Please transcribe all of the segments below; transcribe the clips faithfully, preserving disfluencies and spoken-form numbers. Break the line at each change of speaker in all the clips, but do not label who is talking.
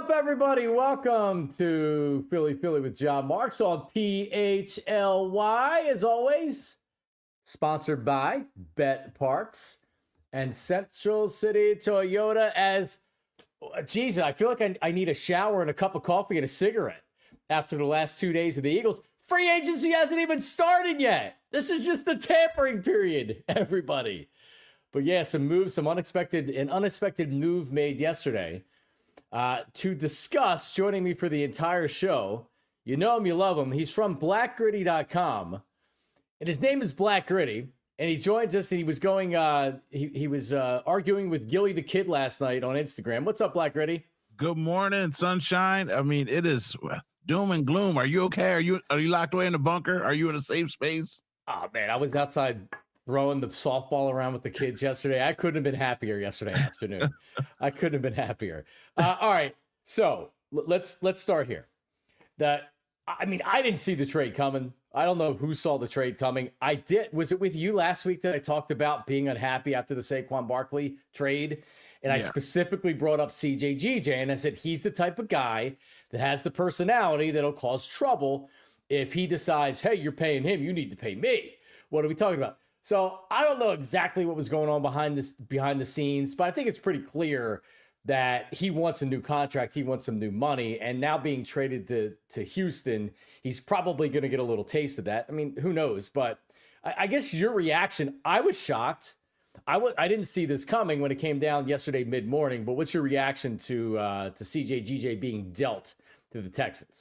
up, everybody? Welcome to Philly Philly with John Marks on P H L Y. As always, sponsored by Bet Parks and Central City Toyota. As, Jesus, I feel like I, I need a shower and a cup of coffee and a cigarette after the last two days of the Eagles. Free agency hasn't even started yet. This is just the tampering period, everybody. But yeah, some moves, some unexpected, an unexpected move made yesterday. Uh, to discuss, joining me for the entire show, you know him, you love him. He's from black gritty dot com, and his name is Black Gritty, and he joins us, and he was going, uh, he, he was uh, arguing with Gilly the Kid last night on Instagram. What's up, Black Gritty?
Good morning, sunshine. I mean, it is doom and gloom. Are you okay? Are you are you locked away in the bunker? Are you in a safe space?
Oh, man, I was outside throwing the softball around with the kids yesterday. I couldn't have been happier yesterday afternoon. I couldn't have been happier. Uh, all right, so l- let's let's start here. That I mean, I didn't see the trade coming. I don't know who saw the trade coming. I did. Was it with you last week that I talked about being unhappy after the Saquon Barkley trade? And I yeah. specifically brought up C J G J, and I said he's the type of guy that has the personality that'll cause trouble if he decides, hey, you're paying him, you need to pay me. What are we talking about? So I don't know exactly what was going on behind this behind the scenes, but I think it's pretty clear that he wants a new contract. He wants some new money. And now being traded to, to Houston, he's probably going to get a little taste of that. I mean, who knows? But I, I guess your reaction, I was shocked. I w- I didn't see this coming when it came down yesterday mid-morning. But what's your reaction to uh, to C J G J being dealt to the Texans?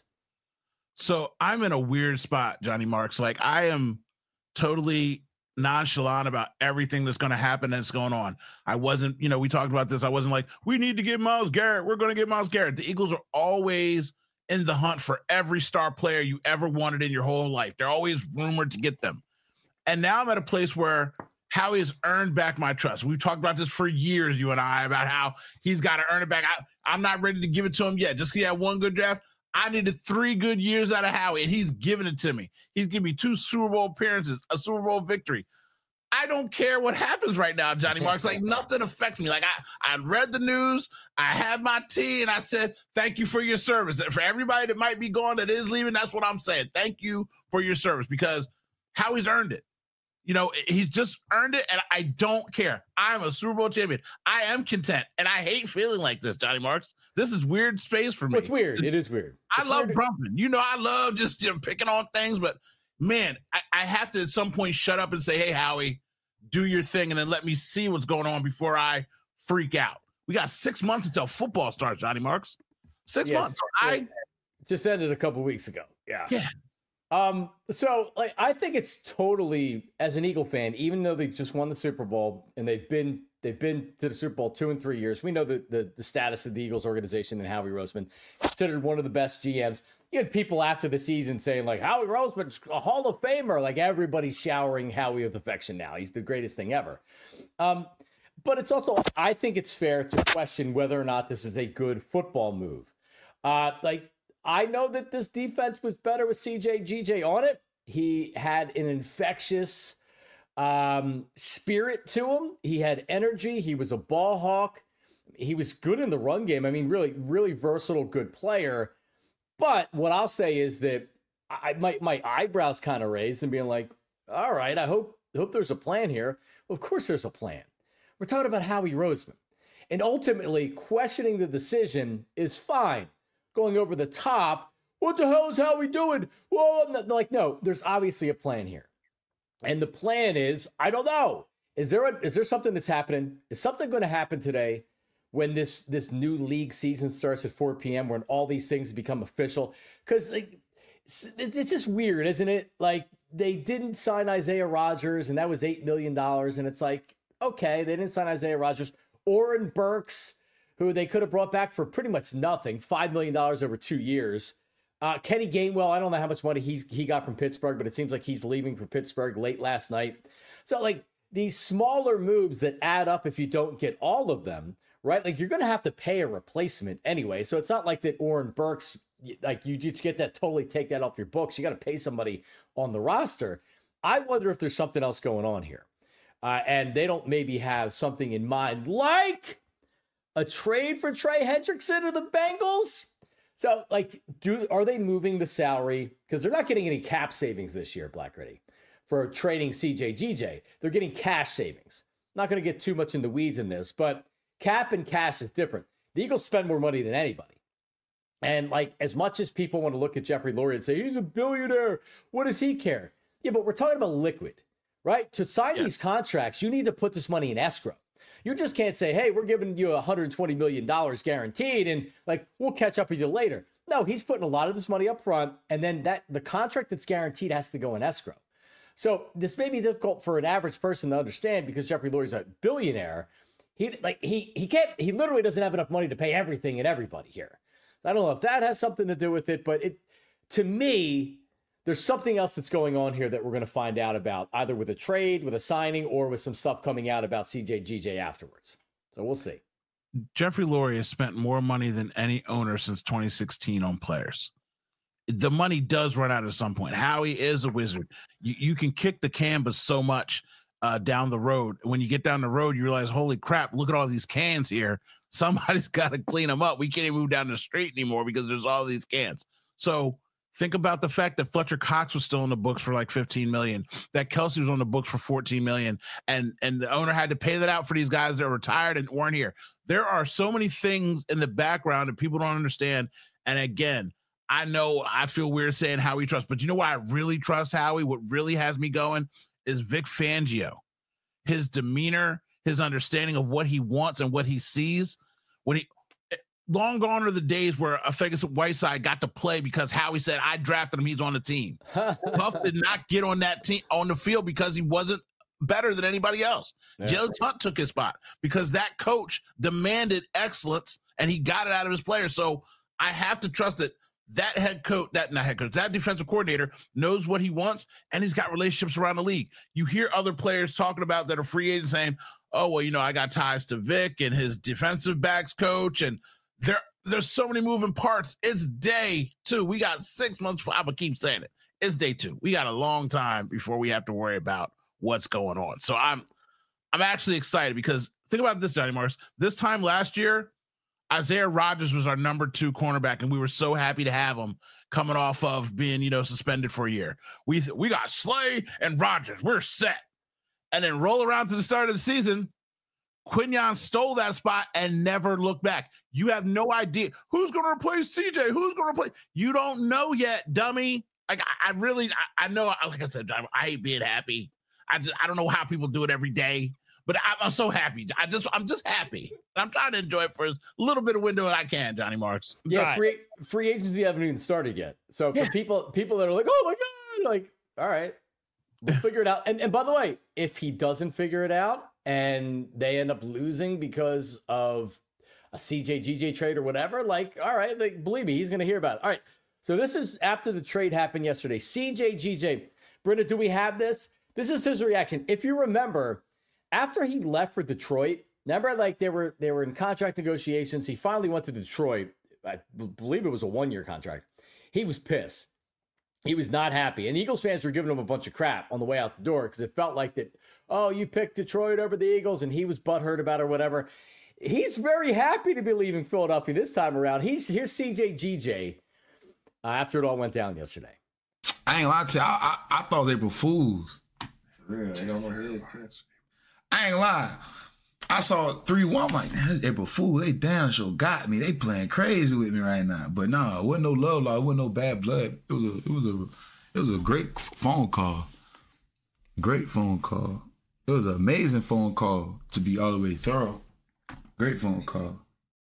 So I'm in a weird spot, Johnny Marks. Like, I am totally nonchalant about everything that's going to happen that's going on. I wasn't, you know, we talked about this. I wasn't like, we need to get Myles Garrett. We're going to get Myles Garrett. The Eagles are always in the hunt for every star player you ever wanted in your whole life. They're always rumored to get them. And now I'm at a place where Howie has earned back my trust. We've talked about this for years, you and I, about how he's got to earn it back. I, I'm not ready to give it to him yet. Just because he had one good draft, I needed three good years out of Howie, and he's giving it to me. He's giving me two Super Bowl appearances, a Super Bowl victory. I don't care what happens right now, Johnny Marks. Like, nothing affects me. Like, I, I read the news, I had my tea, and I said, thank you for your service. And for everybody that might be gone that is leaving, that's what I'm saying. Thank you for your service, because Howie's earned it. You know, he's just earned it, and I don't care. I'm a Super Bowl champion. I am content, and I hate feeling like this, Johnny Marks. This is weird space for me.
Well, it's weird. It is weird.
I
it's
love
weird.
brumping. You know, I love just, you know, picking on things, but, man, I, I have to at some point shut up and say, hey, Howie, do your thing, and then let me see what's going on before I freak out. We got six months until football starts, Johnny Marks. Six yes, months. I
just ended a couple weeks ago. Yeah.
Yeah.
Um, so like, I think it's totally, as an Eagle fan, even though they just won the Super Bowl and they've been, they've been to the Super Bowl two and three years. We know the, the, the status of the Eagles organization and Howie Roseman, considered one of the best G Ms. You had people after the season saying like, Howie Roseman's a Hall of Famer. Like, everybody's showering Howie with affection now. He's the greatest thing ever. Um, but it's also, I think it's fair to question whether or not this is a good football move. Uh, like, I know that this defense was better with C J G J on it. He had an infectious um, spirit to him. He had energy. He was a ball hawk. He was good in the run game. I mean, really, really versatile, good player. But what I'll say is that I my my eyebrows kind of raised and being like, all right, I hope hope there's a plan here. Well, of course there's a plan. We're talking about Howie Roseman. And ultimately, questioning the decision is fine. Going over the top, what the hell is Howie doing? Whoa, like, no, there's obviously a plan here. And the plan is, I don't know. Is there a, is there something that's happening? Is something going to happen today when this this new league season starts at four p.m., when all these things become official? Because like, it's just weird, isn't it? Like, they didn't sign Isaiah Rodgers, and that was eight million dollars. And it's like, okay, they didn't sign Isaiah Rodgers. Oren Burks, who they could have brought back for pretty much nothing, five million dollars over two years. Uh, Kenny Gainwell, I don't know how much money he's, he got from Pittsburgh, but it seems like he's leaving for Pittsburgh late last night. So, like, these smaller moves that add up if you don't get all of them, right? Like, you're going to have to pay a replacement anyway. So it's not like that Oren Burks, like, you just get that, totally take that off your books. You got to pay somebody on the roster. I wonder if there's something else going on here. Uh, and they don't maybe have something in mind, like a trade for Trey Hendrickson of the Bengals? So, like, do are they moving the salary? Because they're not getting any cap savings this year, Black Ready, for trading C J G J. They're getting cash savings. Not going to get too much in the weeds in this, but cap and cash is different. The Eagles spend more money than anybody. And, like, as much as people want to look at Jeffrey Lurie and say, he's a billionaire, what does he care? Yeah, but we're talking about liquid, right? To sign yes. these contracts, you need to put this money in escrow. You just can't say, hey, we're giving you one hundred twenty million dollars guaranteed, and, like, we'll catch up with you later. No, he's putting a lot of this money up front, and then that the contract that's guaranteed has to go in escrow. So this may be difficult for an average person to understand because Jeffrey Lurie's a billionaire. He like he he can't he literally doesn't have enough money to pay everything and everybody here. I don't know if that has something to do with it, but it to me, there's something else that's going on here that we're going to find out about, either with a trade, with a signing, or with some stuff coming out about C J G J afterwards. So we'll see.
Jeffrey Lurie has spent more money than any owner since twenty sixteen on players. The money does run out at some point. Howie is a wizard. You, you can kick the can, but so much uh, down the road. When you get down the road, you realize, holy crap, look at all these cans here. Somebody's got to clean them up. We can't even move down the street anymore because there's all these cans. So think about the fact that Fletcher Cox was still in the books for like fifteen million dollars, that Kelsey was on the books for fourteen million dollars, and, and the owner had to pay that out for these guys that are retired and weren't here. There are so many things in the background that people don't understand. And again, I know I feel weird saying Howie trust, but you know why I really trust Howie? What really has me going is Vic Fangio. His demeanor, his understanding of what he wants and what he sees. When he long gone are the days where a Ferguson Whiteside got to play because Howie said, I drafted him, he's on the team. Huff did not get on that team on the field because he wasn't better than anybody else. Yeah. Jalen Hunt took his spot because that coach demanded excellence and he got it out of his players. So I have to trust that that head coach, that not head coach, that defensive coordinator knows what he wants, and he's got relationships around the league. You hear other players talking about that are free agents saying, oh, well, you know, I got ties to Vic and his defensive backs coach, and there, there's so many moving parts. It's day two. We got six months. I'm going to keep saying it. It's day two. We got a long time before we have to worry about what's going on. So I'm I'm actually excited because think about this, Johnny Mars. This time last year, Isaiah Rodgers was our number two cornerback, and we were so happy to have him coming off of being, you know, suspended for a year. We we got Slay and Rodgers. We're set. And then roll around to the start of the season, Quinyon stole that spot and never looked back. You have no idea who's going to replace C J. Who's going to replace? You don't know yet, dummy. Like I, I really, I, I know. Like I said, I, I hate being happy. I just, I don't know how people do it every day. But I, I'm so happy. I just, I'm just happy. I'm trying to enjoy it for as little bit of window as I can, Johnny Marks. I'm
yeah, free, free agency haven't even started yet. So for yeah. people, people that are like, oh my God, like, all right, we'll figure it out. And, and by the way, if he doesn't figure it out and they end up losing because of a C J G J trade or whatever, like, all right, like, believe me, he's going to hear about it. All right. So this is after the trade happened yesterday. C J G J, Brenda, do we have this? This is his reaction. If you remember, after he left for Detroit, remember, like they were they were in contract negotiations. He finally went to Detroit. I believe it was a one-year contract. He was pissed. He was not happy. And Eagles fans were giving him a bunch of crap on the way out the door because it felt like that, oh, you picked Detroit over the Eagles, and he was butthurt about it or whatever. He's very happy to be leaving Philadelphia this time around. He's here's C J G J uh, after it all went down yesterday.
I ain't lying to you. I, I, I thought they were fools.
For real, they don't know his
I ain't lying. I saw three one. I'm like, man, this April Fool, they damn sure got me. They playing crazy with me right now. But nah, it wasn't no love law. It wasn't no bad blood. It was a, it was a, it was a great phone call. Great phone call. It was an amazing phone call to be all the way thorough. Great phone call.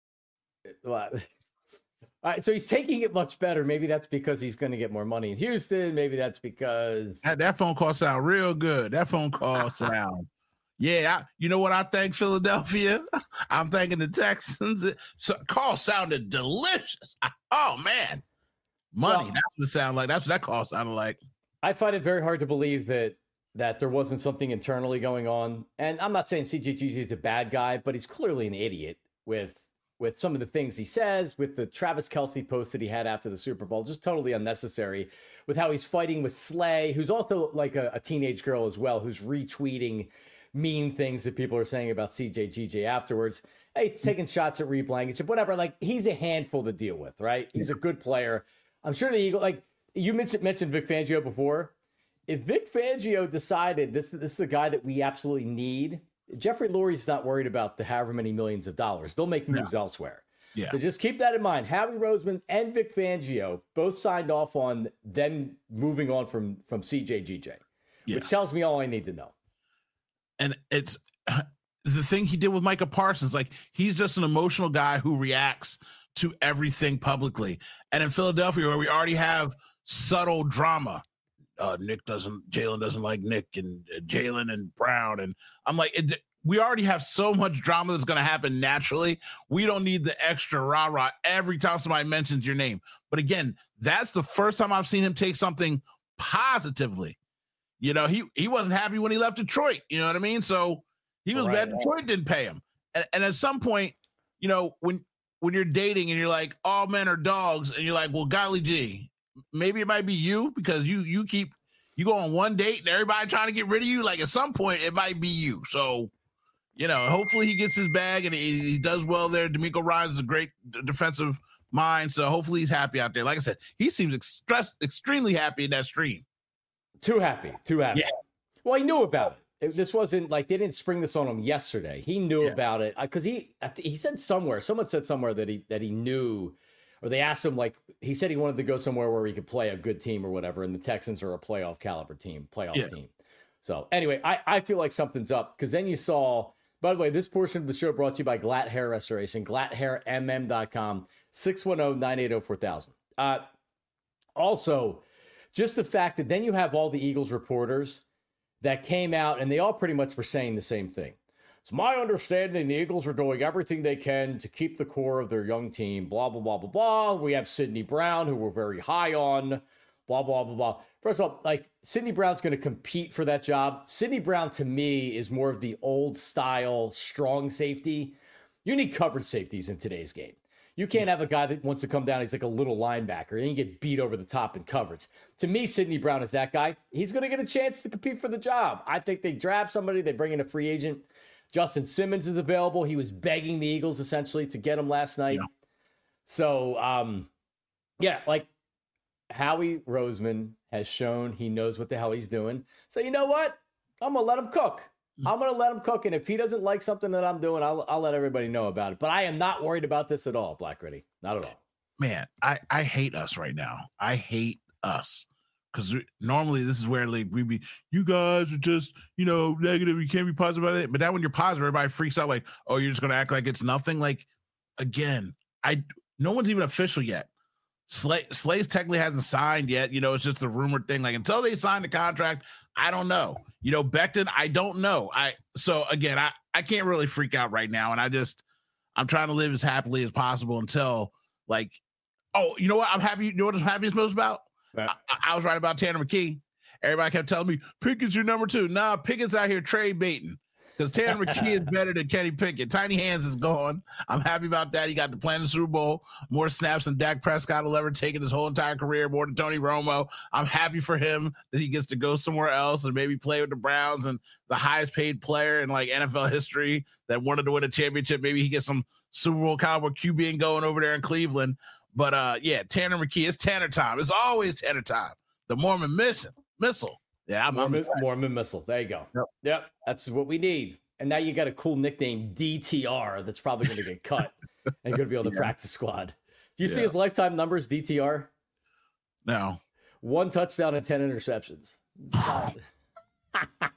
All right, so he's taking it much better. Maybe that's because he's going to get more money in Houston. Maybe that's because
that, that phone call sound real good. That phone call sound. Yeah, I, you know what I thank Philadelphia? I'm thanking the Texans. So, call sounded delicious. I, oh, man. Money. Well, that's what it sounded like. That's what that call sounded like.
I find it very hard to believe that that there wasn't something internally going on. And I'm not saying C J G J is a bad guy, but he's clearly an idiot with with some of the things he says, with the Travis Kelce post that he had after the Super Bowl, just totally unnecessary, with how he's fighting with Slay, who's also like a, a teenage girl as well, who's retweeting mean things that people are saying about C J G J afterwards. Hey, taking shots at Reed Blankenship, whatever. Like, he's a handful to deal with, right? He's a good player. I'm sure the Eagle, like you mentioned, mentioned Vic Fangio before. If Vic Fangio decided this, this is a guy that we absolutely need, Jeffrey Lurie's not worried about the however many millions of dollars. They'll make moves yeah. elsewhere.
Yeah.
So just keep that in mind. Howie Roseman and Vic Fangio both signed off on them moving on from, from C J G J, yeah. which tells me all I need to know.
And it's the thing he did with Micah Parsons. Like, he's just an emotional guy who reacts to everything publicly. And in Philadelphia, where we already have subtle drama, uh, Nick doesn't, Jalen doesn't like Nick, and uh, Jalen and Brown. And I'm like, it, we already have so much drama that's going to happen naturally. We don't need the extra rah-rah every time somebody mentions your name. But again, that's the first time I've seen him take something positively. You know, he, he wasn't happy when he left Detroit. You know what I mean? So he was
right,
bad.
right.
Detroit didn't pay him. And, and at some point, you know, when, when you're dating and you're like, all men are dogs, and you're like, well, golly gee, maybe it might be you, because you, you keep, you go on one date and everybody trying to get rid of you. Like, at some point it might be you. So, you know, hopefully he gets his bag and he, he does well there. D'Amico Ryans is a great d- defensive mind. So hopefully he's happy out there. Like I said, he seems express, extremely happy in that stream.
Too happy, too happy.
Yeah.
Well, he knew about it. it. This wasn't like they didn't spring this on him yesterday. He knew
yeah.
about it because he he said somewhere, someone said somewhere that he that he knew, or they asked him, like, he said he wanted to go somewhere where he could play a good team or whatever, and the Texans are a playoff caliber team, playoff yeah. team. So anyway, I, I feel like something's up, because then you saw, by the way, this portion of the show brought to you by Glatt Hair Restoration, glatt hair m m dot com, six one zero, nine eight zero, four thousand. Uh, also, just the fact that then you have all the Eagles reporters that came out, and they all pretty much were saying the same thing. It's my understanding the Eagles are doing everything they can to keep the core of their young team, blah, blah, blah, blah, blah. We have Sidney Brown, who we're very high on, blah, blah, blah, blah. First of all, like, Sidney Brown's going to compete for that job. Sidney Brown, to me, is more of the old-style strong safety. You need coverage safeties in today's game. You can't have a guy that wants to come down, he's like a little linebacker, and you get beat over the top in coverage. To me, Sidney Brown is that guy. He's going to get a chance to compete for the job. I think they draft somebody, they bring in a free agent. Justin Simmons is available. He was begging the Eagles, essentially, to get him last night. Yeah. So, um, yeah, like, Howie Roseman has shown he knows what the hell he's doing. So, you know what? I'm going to let him cook. I'm going to let him cook, and if he doesn't like something that I'm doing, I'll, I'll let everybody know about it. But I am not worried about this at all, Black Ready. Not at all.
Man, I, I hate us right now. I hate us. Because normally this is where, like, we be, you guys are just, you know, negative. You can't be positive about it. But now when you're positive, everybody freaks out like, oh, you're just going to act like it's nothing. Like, again, I no one's even official yet. Slay, Slays technically hasn't signed yet. You know, it's just a rumored thing. Like, until they sign the contract, I don't know. You know, Becton, I don't know. I so again, I, I can't really freak out right now. And I just I'm trying to live as happily as possible until, like, oh, you know what? I'm happy. You know what I'm happiest most about? Right. I, I was right about Tanner McKee. Everybody kept telling me Pickett's your number two. Nah, Pickett's out here trade baiting. Because Tanner McKee is better than Kenny Pickett. Tiny Hands is gone. I'm happy about that. He got to play in the Super Bowl. More snaps than Dak Prescott will ever take in his whole entire career, more than Tony Romo. I'm happy for him that he gets to go somewhere else and maybe play with the Browns and the highest paid player in, like, N F L history that wanted to win a championship. Maybe he gets some Super Bowl caliber Q B and going over there in Cleveland. But, uh, yeah, Tanner McKee, it's Tanner time. It's always Tanner time. The Mormon mission, missile. Yeah, I'm
Mormon, Mormon missile. There you go. Yep. yep, that's what we need. And now you got a cool nickname, D T R, that's probably going to get cut and going to be on the yeah. practice squad. Do you yeah. see his lifetime numbers, D T R?
No.
One touchdown and ten interceptions.
that,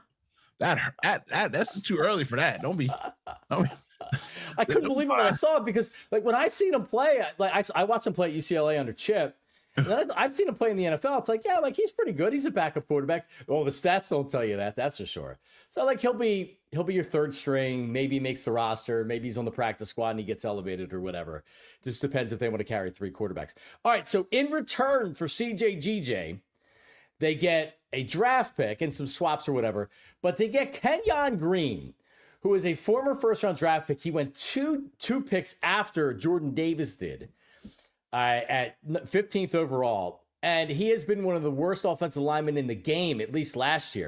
that that that's too early for that. Don't be. Don't be.
I couldn't believe it when I saw it, because, like, when I've seen him play, like I, I watched him play at U C L A under Chip. And then I've seen him play in the N F L. It's like, yeah, like, he's pretty good. He's a backup quarterback. Well, the stats don't tell you that. That's for sure. So, like, he'll be he'll be your third string. Maybe he makes the roster. Maybe he's on the practice squad and he gets elevated or whatever. Just depends if they want to carry three quarterbacks. All right. So in return for C J G J, they get a draft pick and some swaps or whatever. But they get Kenyon Green, who is a former first round draft pick. He went two two picks after Jordan Davis did. Uh, at fifteenth overall, and he has been one of the worst offensive linemen in the game, at least last year.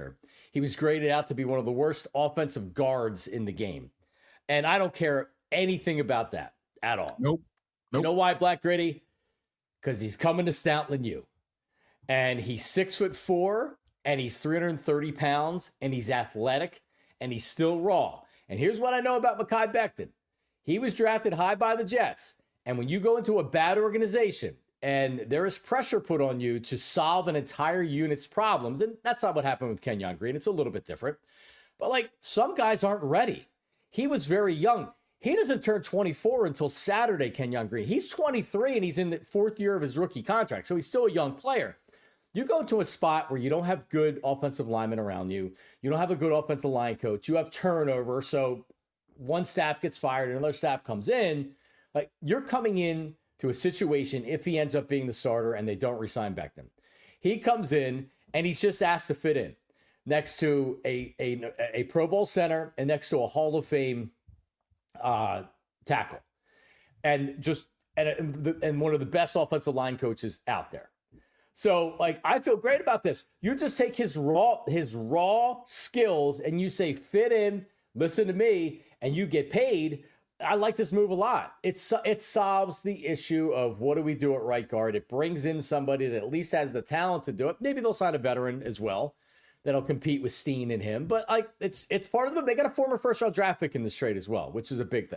he was graded out to be one of the worst offensive guards in the game. And I don't care anything about that at all.
Nope. Nope.
You know why, Black Gritty? Because he's coming to Stoutland U. And he's six foot four, and he's three hundred thirty pounds, and he's athletic, and he's still raw. And here's what I know about Mekhi Becton. He was drafted high by the Jets. And when you go into a bad organization and there is pressure put on you to solve an entire unit's problems, and that's not what happened with Kenyon Green. It's a little bit different. But, like, some guys aren't ready. He was very young. He doesn't turn twenty-four until Saturday, Kenyon Green. He's twenty-three, and he's in the fourth year of his rookie contract, so he's still a young player. You go to a spot where you don't have good offensive linemen around you. You don't have a good offensive line coach. You have turnover, so one staff gets fired and another staff comes in. Like, you're coming in to a situation, if he ends up being the starter and they don't re-sign Becton. He comes in, and he's just asked to fit in next to a, a, a Pro Bowl center and next to a Hall of Fame uh, tackle. And just and, and one of the best offensive line coaches out there. So, like, I feel great about this. You just take his raw his raw skills and you say, fit in, listen to me, and you get paid. I like this move a lot. It's it solves the issue of what do we do at right guard. It brings in somebody that at least has the talent to do it. Maybe they'll sign a veteran as well that'll compete with Steen and him. But, like, it's it's part of them. They got a former first round draft pick in this trade as well, which is a big thing.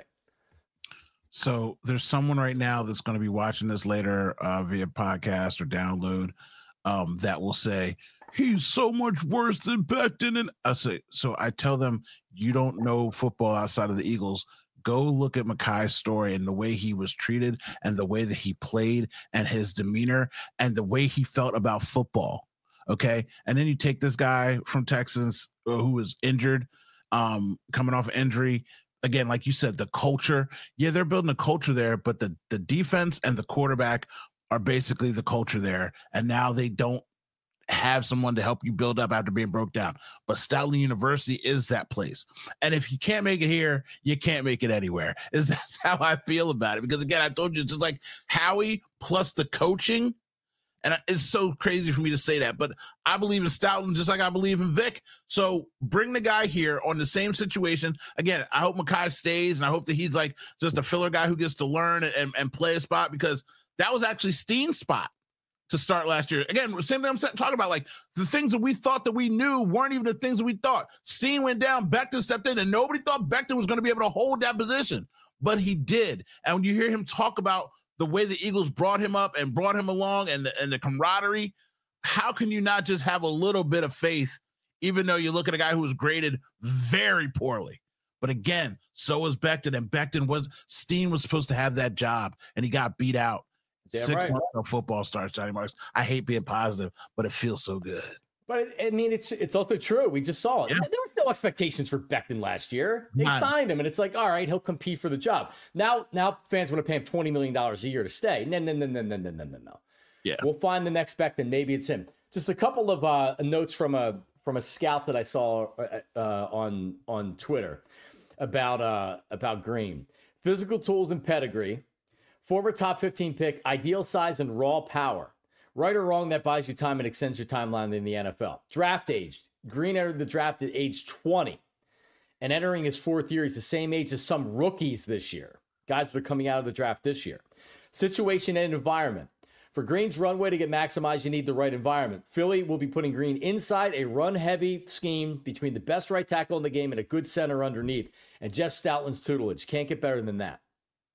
So there's someone right now that's going to be watching this later uh, via podcast or download um, that will say, he's so much worse than Becton. And I say, so I tell them, you don't know football outside of the Eagles. Go look at Mekhi's story and the way he was treated and the way that he played and his demeanor and the way he felt about football. Okay. And then you take this guy from Texas uh, who was injured, um, coming off injury. Again, like you said, the culture, yeah, they're building a culture there, but the, the defense and the quarterback are basically the culture there. And now they don't have someone to help you build up after being broke down. But Stoutland University is that place. And if you can't make it here, you can't make it anywhere. Is That's how I feel about it. Because, again, I told you, it's just like Howie plus the coaching. And it's so crazy for me to say that, but I believe in Stoutland just like I believe in Vic. So bring the guy here on the same situation. Again, I hope Mekhi stays, and I hope that he's like just a filler guy who gets to learn and, and play a spot, because that was actually Steen's spot to start last year. Again, same thing I'm talking about. Like, the things that we thought that we knew weren't even the things that we thought. Steen went down, Becton stepped in, and nobody thought Becton was going to be able to hold that position, but he did. And when you hear him talk about the way the Eagles brought him up and brought him along and, and the camaraderie, how can you not just have a little bit of faith, even though you look at a guy who was graded very poorly? But again, so was Becton, and Becton was, Steen was supposed to have that job, and he got beat out.
Damn
Six
right.
months of football starts, Johnny Marks. I hate being positive, but it feels so good.
But, I mean, it's it's also true. We just saw it.
Yeah.
There was no expectations for Becton last year. They
None.
signed him, and it's like, all right, he'll compete for the job. Now now fans want to pay him twenty million dollars a year to stay. No, no, no, no, no, no, no, no, no.
Yeah.
We'll find the next Becton. Maybe it's him. Just a couple of uh, notes from a from a scout that I saw uh, on on Twitter about uh, about Green. Physical tools and pedigree. Former top fifteen pick, ideal size and raw power. Right or wrong, that buys you time and extends your timeline in the N F L. Draft age. Green entered the draft at age twenty. And entering his fourth year, he's the same age as some rookies this year. Guys that are coming out of the draft this year. Situation and environment. For Green's runway to get maximized, you need the right environment. Philly will be putting Green inside a run-heavy scheme between the best right tackle in the game and a good center underneath. And Jeff Stoutland's tutelage. Can't get better than that.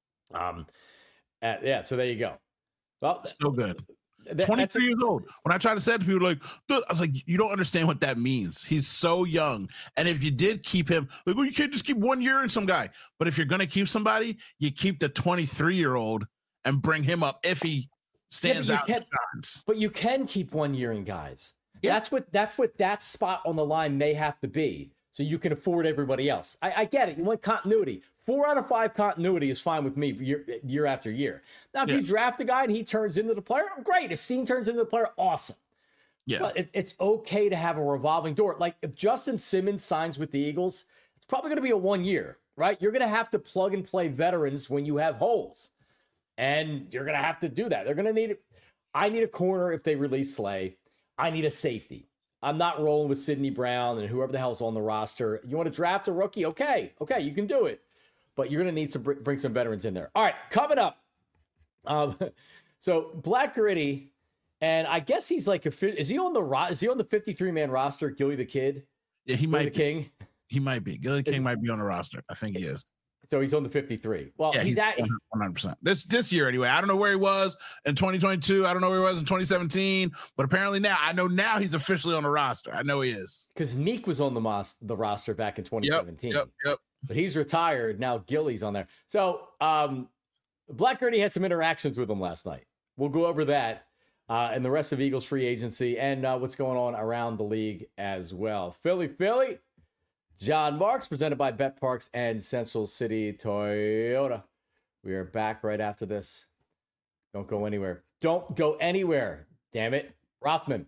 Um, uh, yeah, so there you go. Well,
So good.
That,
twenty-three years old. When I try to say it to people, like, dude, I was like, you don't understand what that means. He's so young. And if you did keep him, like, well, you can't just keep one year in some guy. But if you're going to keep somebody, you keep the twenty-three-year-old and bring him up if he stands
yeah,
out.
Can, but you can keep one year in guys. Yeah. That's what that's what that spot on the line may have to be, so you can afford everybody else. I, I get it. You want continuity. Four out of five continuity is fine with me year, year after year. Now, if yeah. you draft a guy and he turns into the player, great. If Steen turns into the player, awesome. Yeah. But it, it's okay to have a revolving door. Like, if Justin Simmons signs with the Eagles, it's probably going to be a one year, right? You're going to have to plug and play veterans when you have holes. And you're going to have to do that. They're going to need it. I need a corner if they release Slay. I need a safety. I'm not rolling with Sidney Brown and whoever the hell's on the roster. You want to draft a rookie? Okay, okay, you can do it. But you're going to need to bring some veterans in there. All right, coming up. Um, so Black Gritty, and I guess he's like a, is he on the ro- is he on the fifty-three man roster? Gilly the Kid.
Yeah, he
Gilly
might
the
be.
King.
He might be. Gilly King might be on the roster. I think he is.
So he's on the fifty-three. Well,
yeah,
he's, he's at
one hundred percent. This this year anyway. I don't know where he was in twenty twenty-two. I don't know where he was in twenty seventeen. But apparently now, I know now he's officially on the roster. I know he is.
Because Meek was on the mos- the roster back in twenty seventeen.
Yep, yep, yep.
But he's retired. Now Gilly's on there. So um, Black Gritty had some interactions with him last night. We'll go over that uh, and the rest of Eagles free agency and uh, what's going on around the league as well. Philly, Philly. John Marks, presented by Bet Parks and Central City Toyota. We are back right after this. Don't go anywhere. Don't go anywhere. Damn it. Rothman.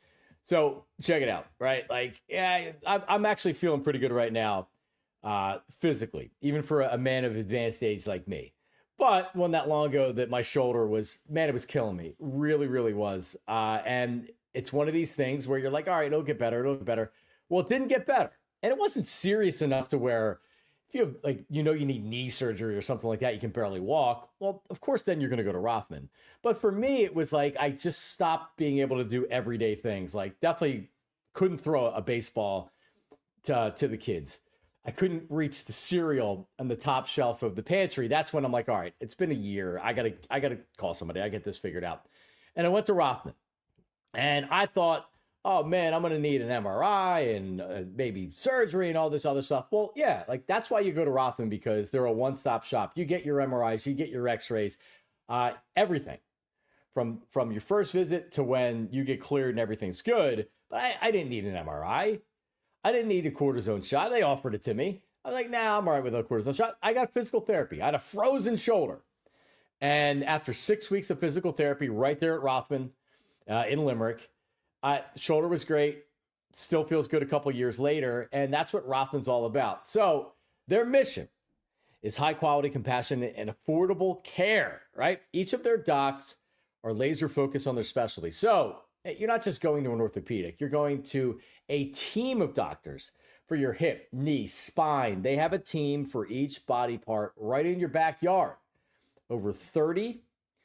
So check it out, right? Like, yeah, I'm actually feeling pretty good right now, uh, physically, even for a man of advanced age like me. But wasn't that long ago that my shoulder was, man, it was killing me. Really, really was. Uh, and it's one of these things where you're like, all right, it'll get better. It'll get better. Well, it didn't get better. And it wasn't serious enough to where if you have, like, you know, you need knee surgery or something like that, you can barely walk. Well, of course, then you're going to go to Rothman. But for me, it was like I just stopped being able to do everyday things. Like, definitely couldn't throw a baseball to, to the kids. I couldn't reach the cereal on the top shelf of the pantry. That's when I'm like, all right, it's been a year. I gotta, I gotta call somebody. I get this figured out. And I went to Rothman, and I thought, oh man, I'm going to need an M R I and uh, maybe surgery and all this other stuff. Well, yeah, like that's why you go to Rothman, because they're a one-stop shop. You get your M R Is, you get your x-rays, uh, everything from, from your first visit to when you get cleared and everything's good. But I, I didn't need an M R I. I didn't need a cortisone shot. They offered it to me. I was like, nah, I'm all right with a cortisone shot. I got physical therapy. I had a frozen shoulder. And after six weeks of physical therapy right there at Rothman uh, in Limerick, Uh, shoulder was great, still feels good a couple years later, and that's what Rothman's all about. So their mission is high quality, compassionate, and affordable care, right? Each of their docs are laser focused on their specialty. So you're not just going to an orthopedic, you're going to a team of doctors for your hip, knee, spine. They have a team for each body part right in your backyard. Over thirty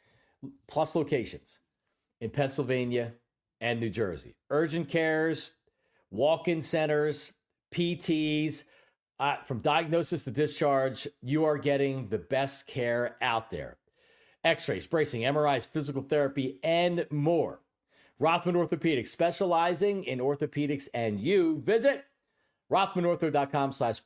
plus locations in Pennsylvania and New Jersey. Urgent cares, walk-in centers, P Ts, uh, from diagnosis to discharge, you are getting the best care out there. X-rays, bracing, M R Is, physical therapy, and more. Rothman Orthopedics, specializing in orthopedics and you. Visit rothmanortho.com slash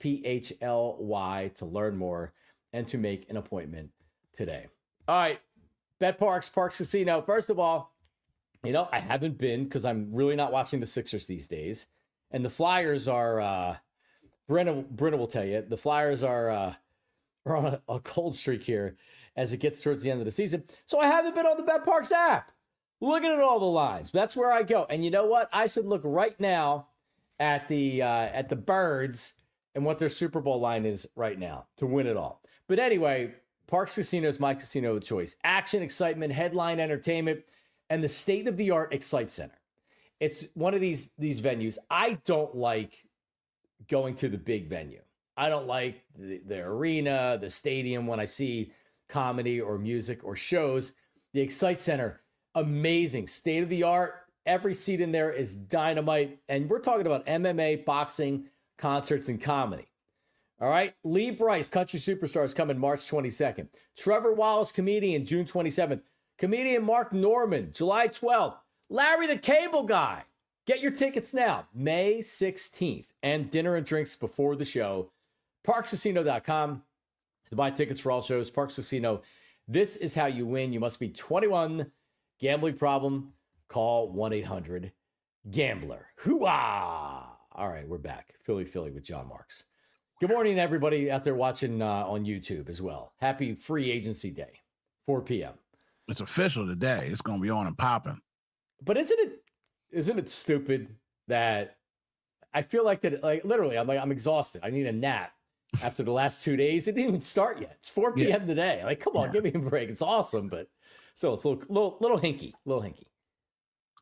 P-H-L-Y to learn more and to make an appointment today. All right, Bet Parks, Parks Casino. First of all, you know, I haven't been because I'm really not watching the Sixers these days. And the Flyers are, uh, Brenna, Brenna will tell you, the Flyers are, uh, are on a, a cold streak here as it gets towards the end of the season. So I haven't been on the Bet Parks app looking at all the lines. That's where I go. And you know what? I should look right now at the uh, at the Birds and what their Super Bowl line is right now to win it all. But anyway, Parks Casino is my casino of choice. Action, excitement, headline entertainment, and the state-of-the-art Excite Center. It's one of these, these venues. I don't like going to the big venue. I don't like the, the arena, the stadium when I see comedy or music or shows. The Excite Center, amazing, state-of-the-art. Every seat in there is dynamite. And we're talking about M M A, boxing, concerts, and comedy. All right? Lee Brice, country superstar, is coming March twenty-second. Trevor Wallace, comedian, June twenty-seventh. Comedian Mark Norman, July twelfth. Larry the Cable Guy. Get your tickets now, May sixteenth. And dinner and drinks before the show. parks casino dot com to buy tickets for all shows. Parks Casino, this is how you win. You must be twenty-one. Gambling problem, call one eight hundred gambler. Hoo-ah! All right, we're back. Philly, Philly with John Marks. Good morning, everybody out there watching uh, on YouTube as well. Happy free agency day, four p.m.
It's official today. It's going to be on and popping.
But isn't it isn't it stupid that I feel like that, like literally, I'm like, I'm exhausted. I need a nap after the last two days. It didn't even start yet. It's four p.m. Yeah. today. Like, come on, yeah. Give me a break. It's awesome, but still, it's a little, little, little hinky, little hinky.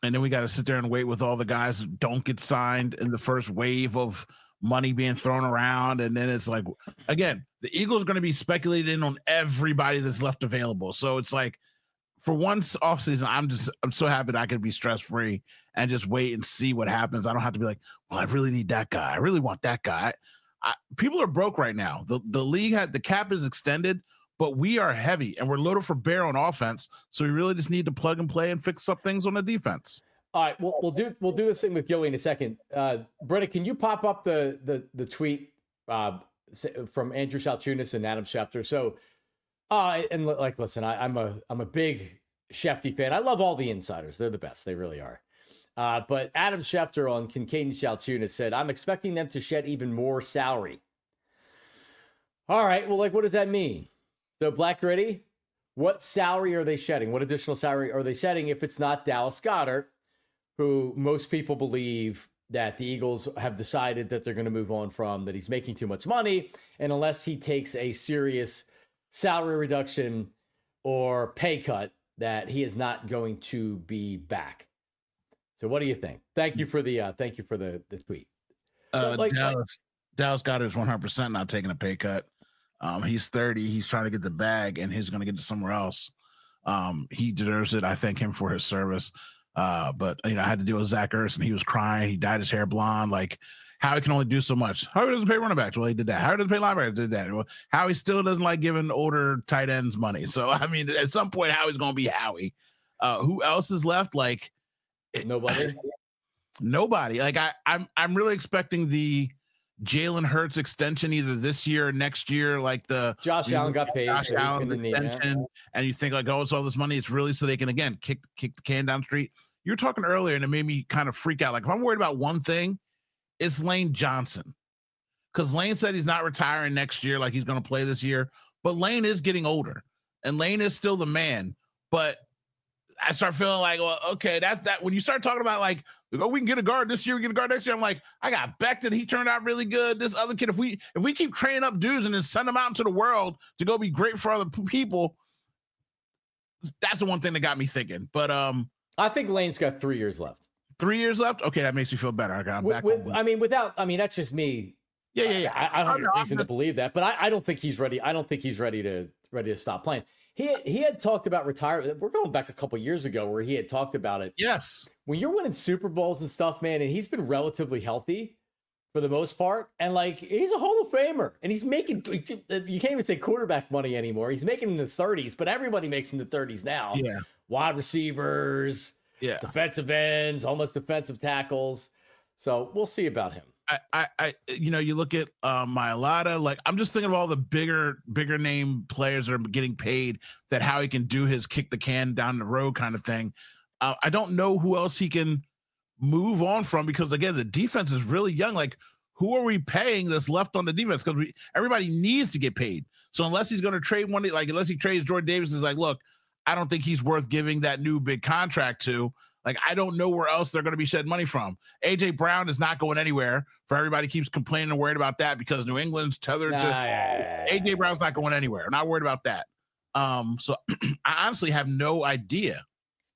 And then we got to sit there and wait with all the guys who don't get signed in the first wave of money being thrown around. And then it's like, again, the Eagles are going to be speculating on everybody that's left available. So it's like, for one offseason, I'm just, I'm so happy that I could be stress-free and just wait and see what happens. I don't have to be like, well, I really need that guy. I really want that guy. I, people are broke right now. The, the league had, the cap is extended, but we are heavy and we're loaded for bear on offense. So we really just need to plug and play and fix up things on the defense.
All right, we'll, we'll do we'll do this thing with Gilly in a second. Uh, Bretta, can you pop up the the the tweet uh, from Andrew Salchunas and Adam Schefter? So, uh, and like, listen, I, I'm a I'm a big Shefty fan. I love all the insiders; they're the best. They really are. Uh, but Adam Schefter on Kincaid and Salchunas said, "I'm expecting them to shed even more salary." All right, well, like, what does that mean? So, Black Gritty, what salary are they shedding? What additional salary are they shedding if it's not Dallas Goedert, who most people believe that the Eagles have decided that they're going to move on from, that he's making too much money, and unless he takes a serious salary reduction or pay cut, that he is not going to be back. So what do you think? Thank you for the uh, thank you for the, the tweet.
Uh,
like,
Dallas,
like,
Dallas Goedert is one hundred percent not taking a pay cut. Um, he's thirty. He's trying to get the bag, and he's going to get to somewhere else. Um, he deserves it. I thank him for his service. Uh, but you know, I had to deal with Zach Ertz, and he was crying. He dyed his hair blonde. Like, Howie can only do so much. Howie doesn't pay running backs. Well, he did that. Howie doesn't pay linebackers. Did that. Well, Howie still doesn't like giving older tight ends money. So I mean, at some point, Howie's going to be Howie. Uh, who else is left? Like
nobody.
Nobody. Like I, I'm, I'm really expecting the Jalen Hurts extension either this year or next year. Like the
Josh Allen got paid.
Josh
so
Allen's
need,
extension, yeah. And you think like, oh, it's all this money. It's really so they can again kick kick the can down the street. You were talking earlier, and it made me kind of freak out. Like if I'm worried about one thing, it's Lane Johnson, because Lane said he's not retiring next year. Like he's going to play this year, but Lane is getting older, and Lane is still the man. But I start feeling like, well, okay, that's that. When you start talking about like, oh, we can get a guard this year, we get a guard next year. I'm like, I got Becton. He turned out really good. This other kid, if we if we keep training up dudes and then send them out into the world to go be great for other people, that's the one thing that got me thinking. But um,
I think Lane's got three years left.
Three years left. Okay, that makes me feel better. Okay, I'm
with,
back.
With, I mean, without. I mean, that's just me.
Yeah, yeah, yeah.
I, I don't have
I,
reason
just,
to believe that, but I, I don't think he's ready. I don't think he's ready to ready to stop playing. He he had talked about retirement. We're going back a couple years ago where he had talked about it.
Yes.
When you're winning Super Bowls and stuff, man, and he's been relatively healthy for the most part, and like he's a Hall of Famer, and he's making, you can't even say quarterback money anymore. He's making in the thirties, but everybody makes in the thirties now.
Yeah.
Wide receivers,
yeah,
defensive ends, almost defensive tackles. So we'll see about him.
I, I, I, you know, you look at uh, Mailata, like I'm just thinking of all the bigger, bigger name players that are getting paid, that how he can do his kick the can down the road kind of thing. Uh, I don't know who else he can move on from, because again, the defense is really young. Like, who are we paying that's left on the defense? Because we everybody needs to get paid. So unless he's going to trade one, like unless he trades Jordan Davis, is like, look, I don't think he's worth giving that new big contract to. Like, I don't know where else they're going to be shed money from. A J Brown is not going anywhere. For everybody keeps complaining and worried about that because New England's tethered nah, to yeah, yeah, A J Brown's not going anywhere. I'm not worried about that. Um, so I honestly have no idea.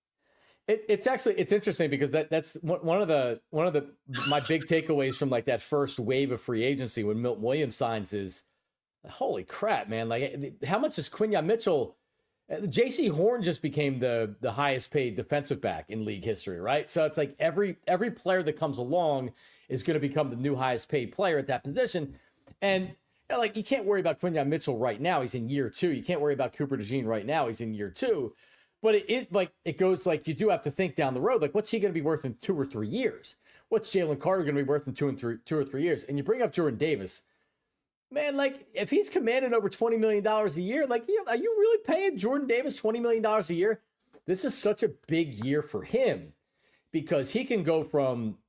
It, it's actually it's interesting because that that's one of the one of the my big takeaways from like that first wave of free agency when Milton Williams signs is, holy crap, man! Like, how much is Quinyon Mitchell? J C Horn just became the the highest paid defensive back in league history, right? So it's like every every player that comes along is going to become the new highest paid player at that position. And you know, like, you can't worry about Quinyon Mitchell right now. He's in year two. You can't worry about Cooper DeJean right now. He's in year two. But it, it like it goes like you do have to think down the road. Like, what's he going to be worth in two or three years? What's Jalen Carter going to be worth in two and three two or three years? And you bring up Jordan Davis. Man, like, if he's commanding over twenty million dollars a year, like, are you really paying Jordan Davis twenty million dollars a year? This is such a big year for him because he can go from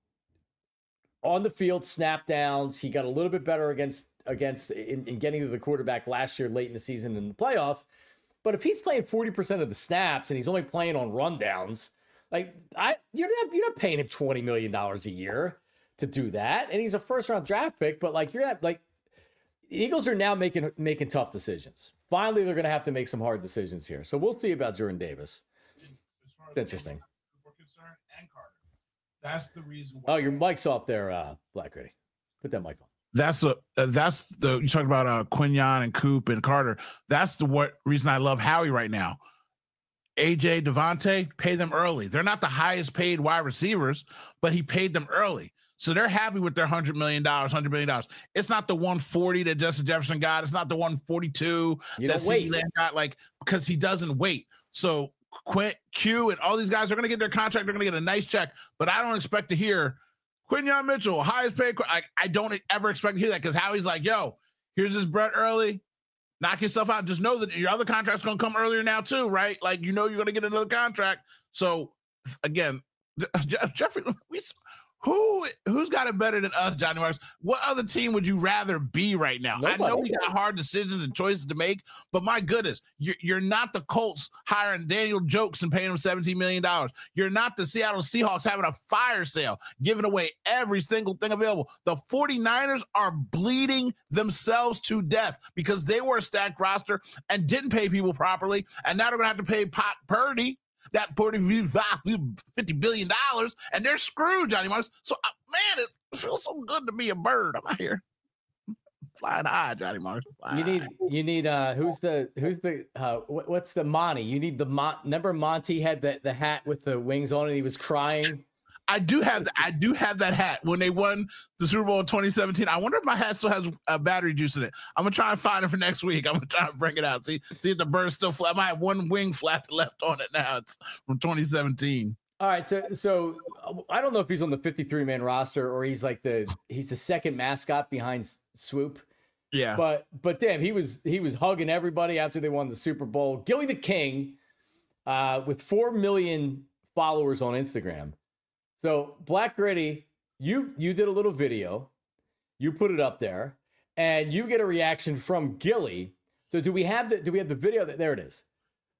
on the field snap downs. He got a little bit better against against in, in getting to the quarterback last year, late in the season in the playoffs. But if he's playing forty percent of the snaps and he's only playing on rundowns, like, I you're not you're not paying him twenty million dollars a year to do that. And he's a first round draft pick, but like, you're not like, the Eagles are now making making tough decisions. Finally, they're going to have to make some hard decisions here. So we'll see about Jordan Davis. It's interesting.
and Carter. That's the reason why.
Oh, your mic's off there, uh, Black Gritty. Put that mic on.
That's the uh, that's the you talked about uh Quinyon and Coop and Carter. That's the what reason I love Howie right now. A J, Devontae, pay them early. They're not the highest paid wide receivers, but he paid them early. So they're happy with their one hundred million dollars, one hundred million dollars. It's not the one forty that Justin Jefferson got. It's not the one forty-two
You
that
don't wait.
CeeDee Lamb got, like, because he doesn't wait. So Quint, Q, and all these guys are going to get their contract. They're going to get a nice check. But I don't expect to hear Quinyon Mitchell, highest paid. I, I don't ever expect to hear that because Howie's like, yo, here's this Brett early. Knock yourself out. Just know that your other contract's going to come earlier now too, right? Like, you know you're going to get another contract. So, again, Jeff, Jeffrey, we, who, who's got it better than us, Johnny Marks? What other team would you rather be right now?
Nobody.
I know we got hard decisions and choices to make, but my goodness, you're, you're not the Colts hiring Daniel Jokes and paying him seventeen million dollars. You're not the Seattle Seahawks having a fire sale, giving away every single thing available. The 49ers are bleeding themselves to death because they were a stacked roster and didn't pay people properly, and now they're going to have to pay Pot Purdy that fifty billion dollars, and they're screwed, Johnny Marks. So, uh, man, it feels so good to be a bird. I'm out here flying high, Johnny Marks.
You need, you need, uh, who's the, who's the, uh, what, what's the Monty? You need the Mon. Remember Monty had the, the hat with the wings on it. And he was crying.
I do have the, I do have that hat when they won the Super Bowl in twenty seventeen. I wonder if my hat still has uh, battery juice in it. I'm gonna try and find it for next week. I'm gonna try and bring it out. See, see if the bird's still flat. I might have one wing flap left on it now. It's from twenty seventeen.
All right, so so I don't know if he's on the fifty-three man roster or he's like the he's the second mascot behind Swoop.
Yeah,
but but damn, he was he was hugging everybody after they won the Super Bowl. Gilly the King, uh, with four million followers on Instagram. So Black Gritty, you you did a little video, you put it up there, and you get a reaction from Gilly. So do we have the do we have the video? There it is.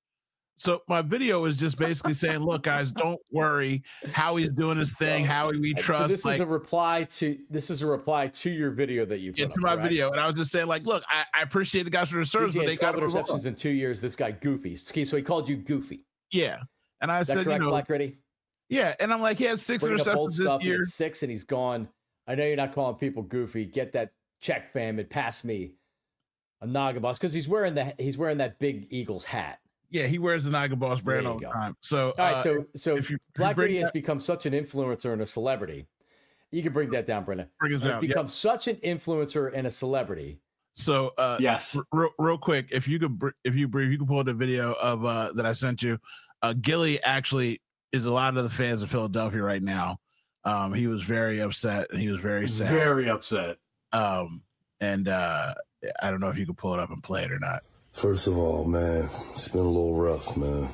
So my video is just basically saying, look, guys, don't worry. Howie's doing his thing. Howie, we trust.
So this
like,
is a reply to this is a reply to your video that you put
into
up,
my
right?
video, and I was just saying, like, look, I, I appreciate the guys for their service, but they got
interceptions in two years. This guy Goofy. So he called you Goofy.
Yeah, and I
is that
said,
correct,
you know,
Black Gritty?
Yeah, and I'm like, he has six
Bringing
interceptions this
stuff,
year.
Six, and he's gone. I know you're not calling people Goofy. Get that check, fam, and pass me a Naga Boss because he's wearing the he's wearing that big Eagles hat.
Yeah, he wears the Naga Boss brand all the
go.
time. So,
all right,
uh,
so so
if you,
Black Gritty has
that,
become such an influencer and a celebrity. You can bring that down, Brenda.
Bring it down.
He's become
yep.
such an influencer and a celebrity.
So, uh,
yes,
r- real, real quick, if you could, if you if you could pull the video of uh, that I sent you, uh, Gilly actually is a lot of the fans of Philadelphia right now. Um, he was very upset and he was very sad.
Very upset.
Um, and uh, I don't know if you could pull it up and play it or not.
First of all, man, it's been a little rough, man.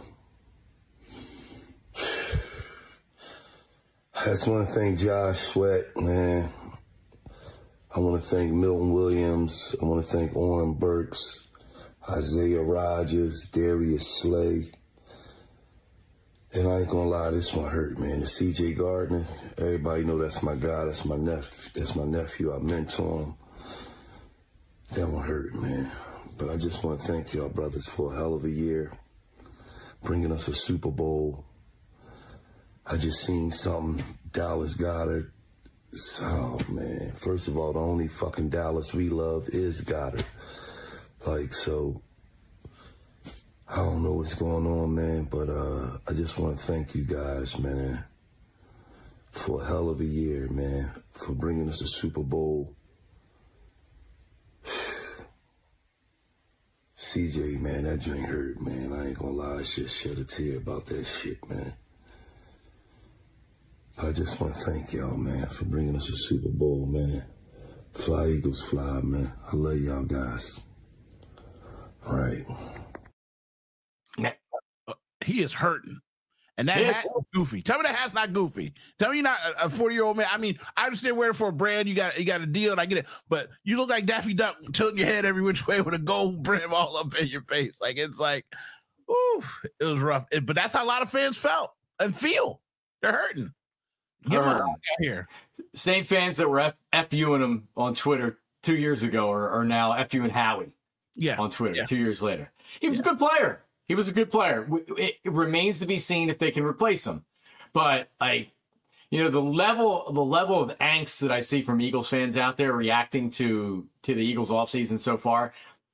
I just want to thank Josh Sweat, man. I want to thank Milton Williams. I want to thank Oren Burks, Isaiah Rodgers, Darius Slay. And I ain't gonna lie, this one hurt, man. The C J Gardner, everybody know that's my guy. That's my nephew. That's my nephew. I mentor him. That one hurt, man. But I just want to thank y'all brothers for a hell of a year, bringing us a Super Bowl. I just seen something, Dallas Goedert. Oh, man. First of all, the only fucking Dallas we love is Goddard. Like, so, I don't know what's going on, man, but uh, I just want to thank you guys, man, for a hell of a year, man, for bringing us a Super Bowl. C J, man, that joint hurt, man. I ain't gonna lie, I just shed a tear about that shit, man. I just want to thank y'all, man, for bringing us a Super Bowl, man. Fly, Eagles, fly, man. I love y'all guys. All right.
He is hurting. And that
Yes.
hat is goofy. Tell me that hat's not goofy. Tell me you're not a forty-year-old man. I mean, I understand wearing it for a brand. You got you got a deal, and I get it. But you look like Daffy Duck tilting your head every which way with a gold brim all up in your face. Like, it's like, ooh, it was rough. It, but that's how a lot of fans felt and feel. They're hurting. Get them out here.
Same fans that were F- FUing him on Twitter two years ago are, are now FUing Howie
Yeah.
on Twitter
Yeah.
two years later. He was a good player. He was a good player. It, it remains to be seen if they can replace him. But like, you know, the level the level of angst that I see from Eagles fans out there reacting to to the Eagles offseason so far,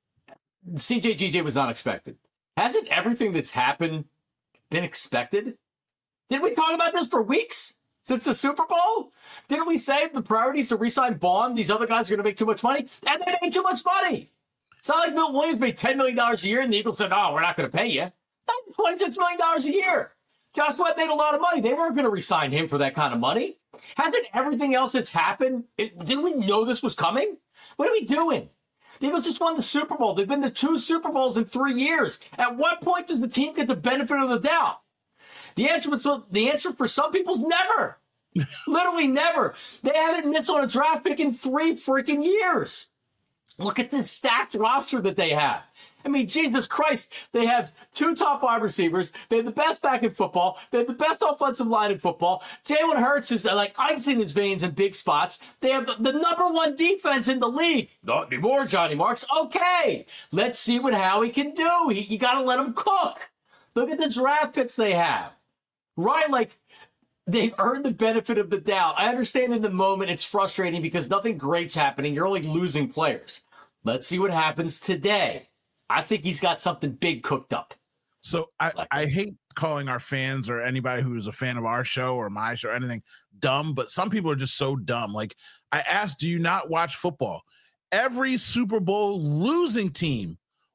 C J G J was unexpected. Hasn't everything that's happened been expected? Didn't we talk about this for weeks since the Super Bowl? Didn't we say the priority is to re-sign Bond? These other guys are going to make too much money, and they made too much money. It's not like Milton Williams made ten million dollars a year, and the Eagles said, "Oh, we're not going to pay you." That's twenty-six million dollars a year. Josh Sweat made a lot of money. They weren't going to re-sign him for that kind of money. Hasn't everything else that's happened, it, didn't we know this was coming? What are we doing? The Eagles just won the Super Bowl. They've been to two Super Bowls in three years. At what point does the team get the benefit of the doubt? The answer was the answer for some people is never. Literally never. They haven't missed on a draft pick in three freaking years. Look at this stacked roster that they have. I mean, Jesus Christ, they have two top wide receivers. They have the best back in football. They have the best offensive line in football. Jalen Hurts is like ice in his veins in big spots. They have the number one defense in the league. Not anymore, Johnny Marks. Okay, let's see what Howie can do. He, you got to let him cook. Look at the draft picks they have. Right, like, they've earned the benefit of the doubt. I understand in the moment it's frustrating because nothing great's happening. You're only losing players. Let's see what happens today. I think he's got something big cooked up.
So I, I hate calling our fans or anybody who's a fan of our show or my show or anything dumb, but some people are just so dumb. Like, I asked, do you not watch football? Every Super Bowl losing team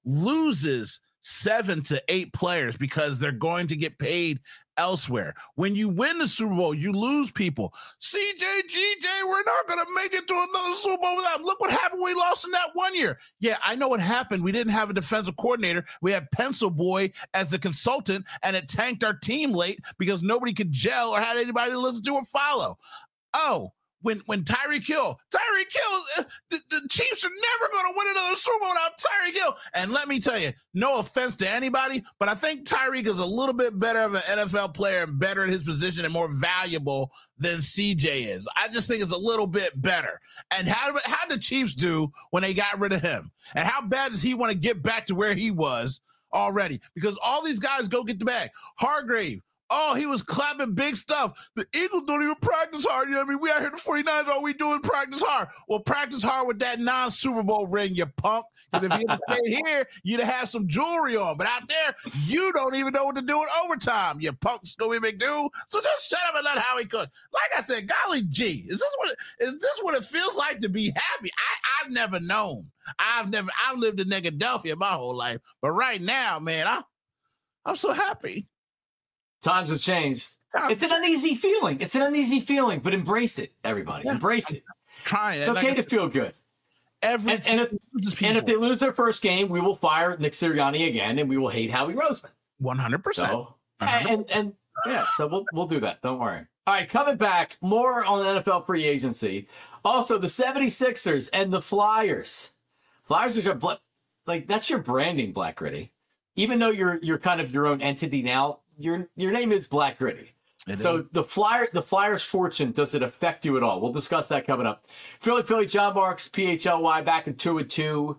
loses seven to eight players because they're going to get paid elsewhere. When you win the Super Bowl, you lose people. C J G J, we're not going to make it to another Super Bowl without him. Look what happened when we lost in that one year. Yeah, I know what happened. We didn't have a defensive coordinator. We had Pencil Boy as the consultant, and it tanked our team late because nobody could gel or had anybody to listen to or follow. Oh, When when Tyreek Hill, Tyreek Hill, uh, the, the Chiefs are never going to win another Super Bowl without Tyreek Hill. And let me tell you, no offense to anybody, but I think Tyreek is a little bit better of an N F L player and better in his position and more valuable than C J is. I just think it's a little bit better. And how how did the Chiefs do when they got rid of him? And how bad does he want to get back to where he was already? Because all these guys go get the bag. Hargrave. Oh, he was clapping big stuff. The Eagles don't even practice hard. You know what I mean? We out here, the 49ers, all we do is practice hard. Well, practice hard with that non-Super Bowl ring, you punk. Because if you had stayed here, you'd have had some jewelry on. But out there, you don't even know what to do in overtime, you punk Scooby McDoo. So just shut up and let Howie cook. Like I said, golly gee, is this what it, is this what it feels like to be happy? I, I've never known. I've never, I've lived in Philadelphia my whole life. But right now, man, I, I'm so happy.
Times have changed. It's an uneasy feeling. It's an uneasy feeling, but embrace it, everybody. Yeah. Embrace it.
Trying.
It's okay like, to feel good.
Every
and, and, if, and if they lose their first game, we will fire Nick Sirianni again, and we will hate Howie Roseman.
one hundred percent.
So, and, and, and yeah, so we'll we'll do that. Don't worry. All right, coming back, more on N F L free agency. Also, the 76ers and the Flyers. Flyers are like that's your branding, Black Gritty. Even though you're you're kind of your own entity now. Your your name is Black Gritty. It so is. the Flyer the Flyers' fortune, does it affect you at all? We'll discuss that coming up. Philly Philly John Marks, P H L Y, back in two and two.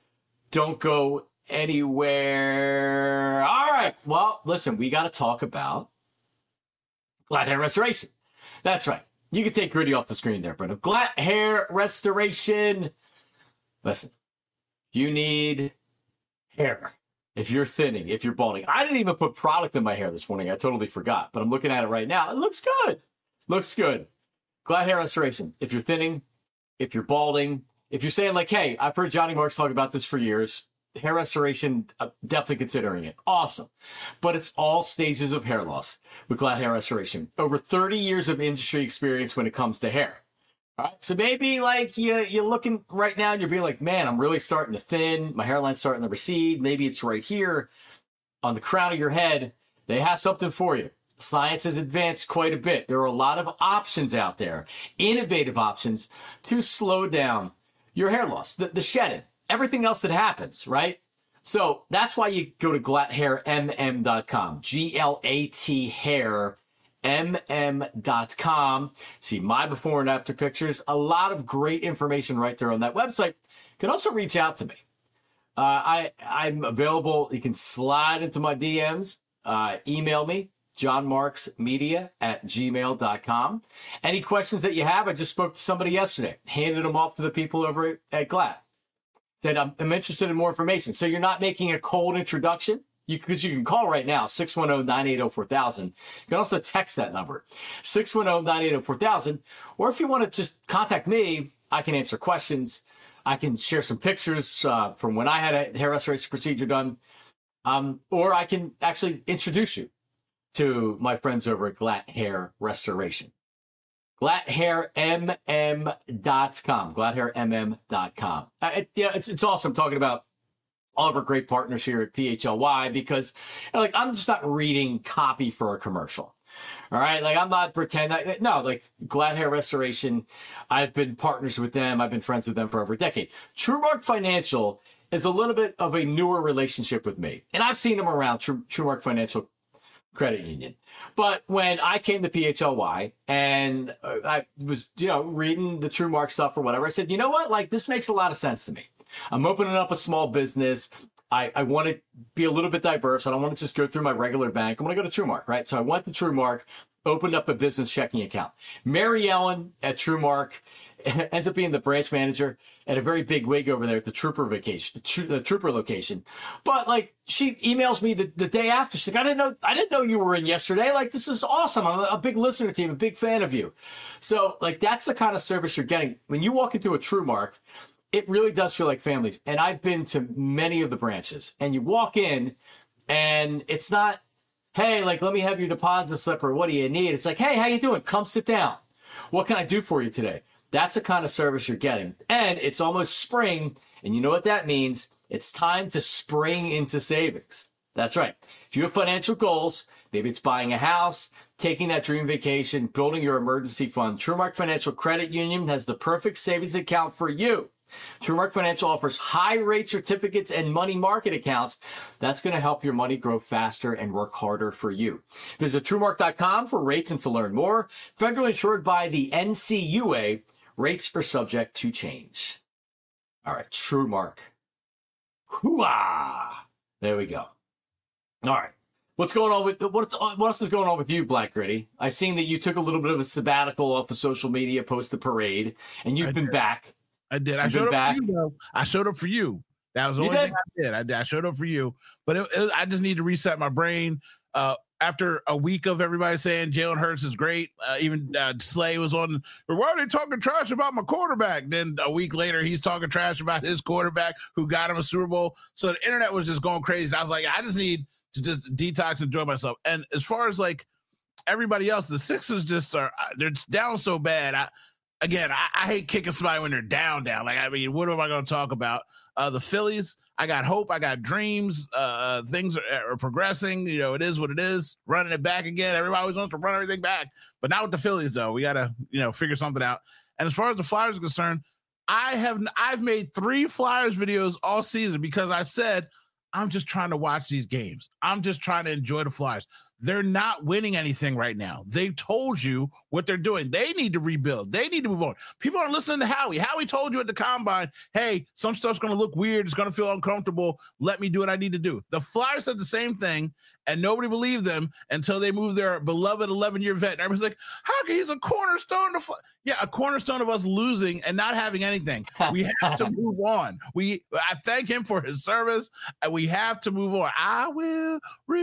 Don't go anywhere. All right. Well, listen, we got to talk about Glad Hair Restoration. That's right. You can take Gritty off the screen there, Brenda. Glad Hair Restoration. Listen, you need hair. If you're thinning, if you're balding. I didn't even put product in my hair this morning. I totally forgot. But I'm looking at it right now. It looks good. Looks good. Glad Hair Restoration. If you're thinning, if you're balding, if you're saying like, hey, I've heard Johnny Marks talk about this for years. Hair restoration, uh, definitely considering it. Awesome. But it's all stages of hair loss with Glad Hair Restoration. Over thirty years of industry experience when it comes to hair. All right, so maybe like you, you're looking right now and you're being like, man, I'm really starting to thin. My hairline's starting to recede. Maybe it's right here on the crown of your head. They have something for you. Science has advanced quite a bit. There are a lot of options out there, innovative options to slow down your hair loss, the, the shedding, everything else that happens, right? So that's why you go to Glat Hair M M dot com, G L A T hair M M dot com. See my before and after pictures. A lot of great information right there on that website. You can also reach out to me. Uh, I, I'm available. You can slide into my D Ms, uh, email me, johnmarksmedia at gmail dot com. Any questions that you have, I just spoke to somebody yesterday, handed them off to the people over at, at Glad. Said, I'm, I'm interested in more information. So you're not making a cold introduction? Because you, you can call right now, six one zero, nine eight zero, four thousand. You can also text that number, six one zero, nine eight zero, four thousand. Or if you want to just contact me, I can answer questions. I can share some pictures uh, from when I had a hair restoration procedure done. Um, or I can actually introduce you to my friends over at Glatt Hair Restoration. glatt hair m m dot com. glatt hair m m dot com. Uh, it, yeah, it's, it's awesome talking about all of our great partners here at P H L Y because, you know, like, I'm just not reading copy for a commercial. All right. Like, I'm not pretending. No, like Glatt Hair Restoration. I've been partners with them. I've been friends with them for over a decade. TrueMark Financial is a little bit of a newer relationship with me. And I've seen them around, True, TrueMark Financial Credit Union. But when I came to P H L Y and I was, you know, reading the TrueMark stuff or whatever, I said, you know what? Like, this makes a lot of sense to me. I'm opening up a small business. I, I want to be a little bit diverse. I don't want to just go through my regular bank. I want to go to TrueMark, right? So I went to TrueMark, opened up a business checking account. Mary Ellen at TrueMark ends up being the branch manager at a very big wig over there at the Trooper vacation, the Trooper location. But like, she emails me the, the day after. She's like, I didn't know, I didn't know you were in yesterday. Like, this is awesome. I'm a, a big listener to you. I'm a big fan of you. So like, that's the kind of service you're getting when you walk into a TrueMark. It really does feel like families. And I've been to many of the branches and you walk in and it's not, hey, like, let me have your deposit slip or what do you need? It's like, hey, how you doing? Come sit down. What can I do for you today? That's the kind of service you're getting. And it's almost spring. And you know what that means? It's time to spring into savings. That's right. If you have financial goals, maybe it's buying a house, taking that dream vacation, building your emergency fund, TrueMark Financial Credit Union has the perfect savings account for you. TrueMark Financial offers high-rate certificates and money market accounts. That's going to help your money grow faster and work harder for you. Visit TrueMark dot com for rates and to learn more. Federally insured by the N C U A. Rates are subject to change. All right, TrueMark. Hoo-ah! There we go. All right. What's going on with what? What else is going on with you, Black Gritty? I seen that you took a little bit of a sabbatical off the social media post the parade, and you've
I
been
did.
back.
I did. I
You've
showed
been
up
back.
for you, though. I showed up for you. That was the
You
only
did?
thing I did. I did. I showed up for you, but it, it, I just need to reset my brain. Uh, after a week of everybody saying Jalen Hurts is great, uh, even uh, Slay was on. Why are they talking trash about my quarterback? Then a week later, he's talking trash about his quarterback who got him a Super Bowl. So the internet was just going crazy. I was like, I just need to just detox and enjoy myself. And as far as like everybody else, the Sixers just are they're just down so bad. I. Again, I, I hate kicking somebody when they're down, down. Like, I mean, what am I going to talk about? Uh, the Phillies, I got hope. I got dreams. Uh, things are, are progressing. You know, it is what it is. Running it back again. Everybody always wants to run everything back. But not with the Phillies, though. We got to, you know, figure something out. And as far as the Flyers are concerned, I have, I've made three Flyers videos all season because I said, I'm just trying to watch these games. I'm just trying to enjoy the Flyers. They're not winning anything right now. They've told you what they're doing. They need to rebuild. They need to move on. People aren't listening to Howie. Howie told you at the combine, hey, some stuff's going to look weird. It's going to feel uncomfortable. Let me do what I need to do. The Flyers said the same thing, and nobody believed them until they moved their beloved eleven-year vet. And everybody's like, how can he's a cornerstone? To fly? Yeah, a cornerstone of us losing and not having anything. We have to move on. We I thank him for his service, and we have to move on. I will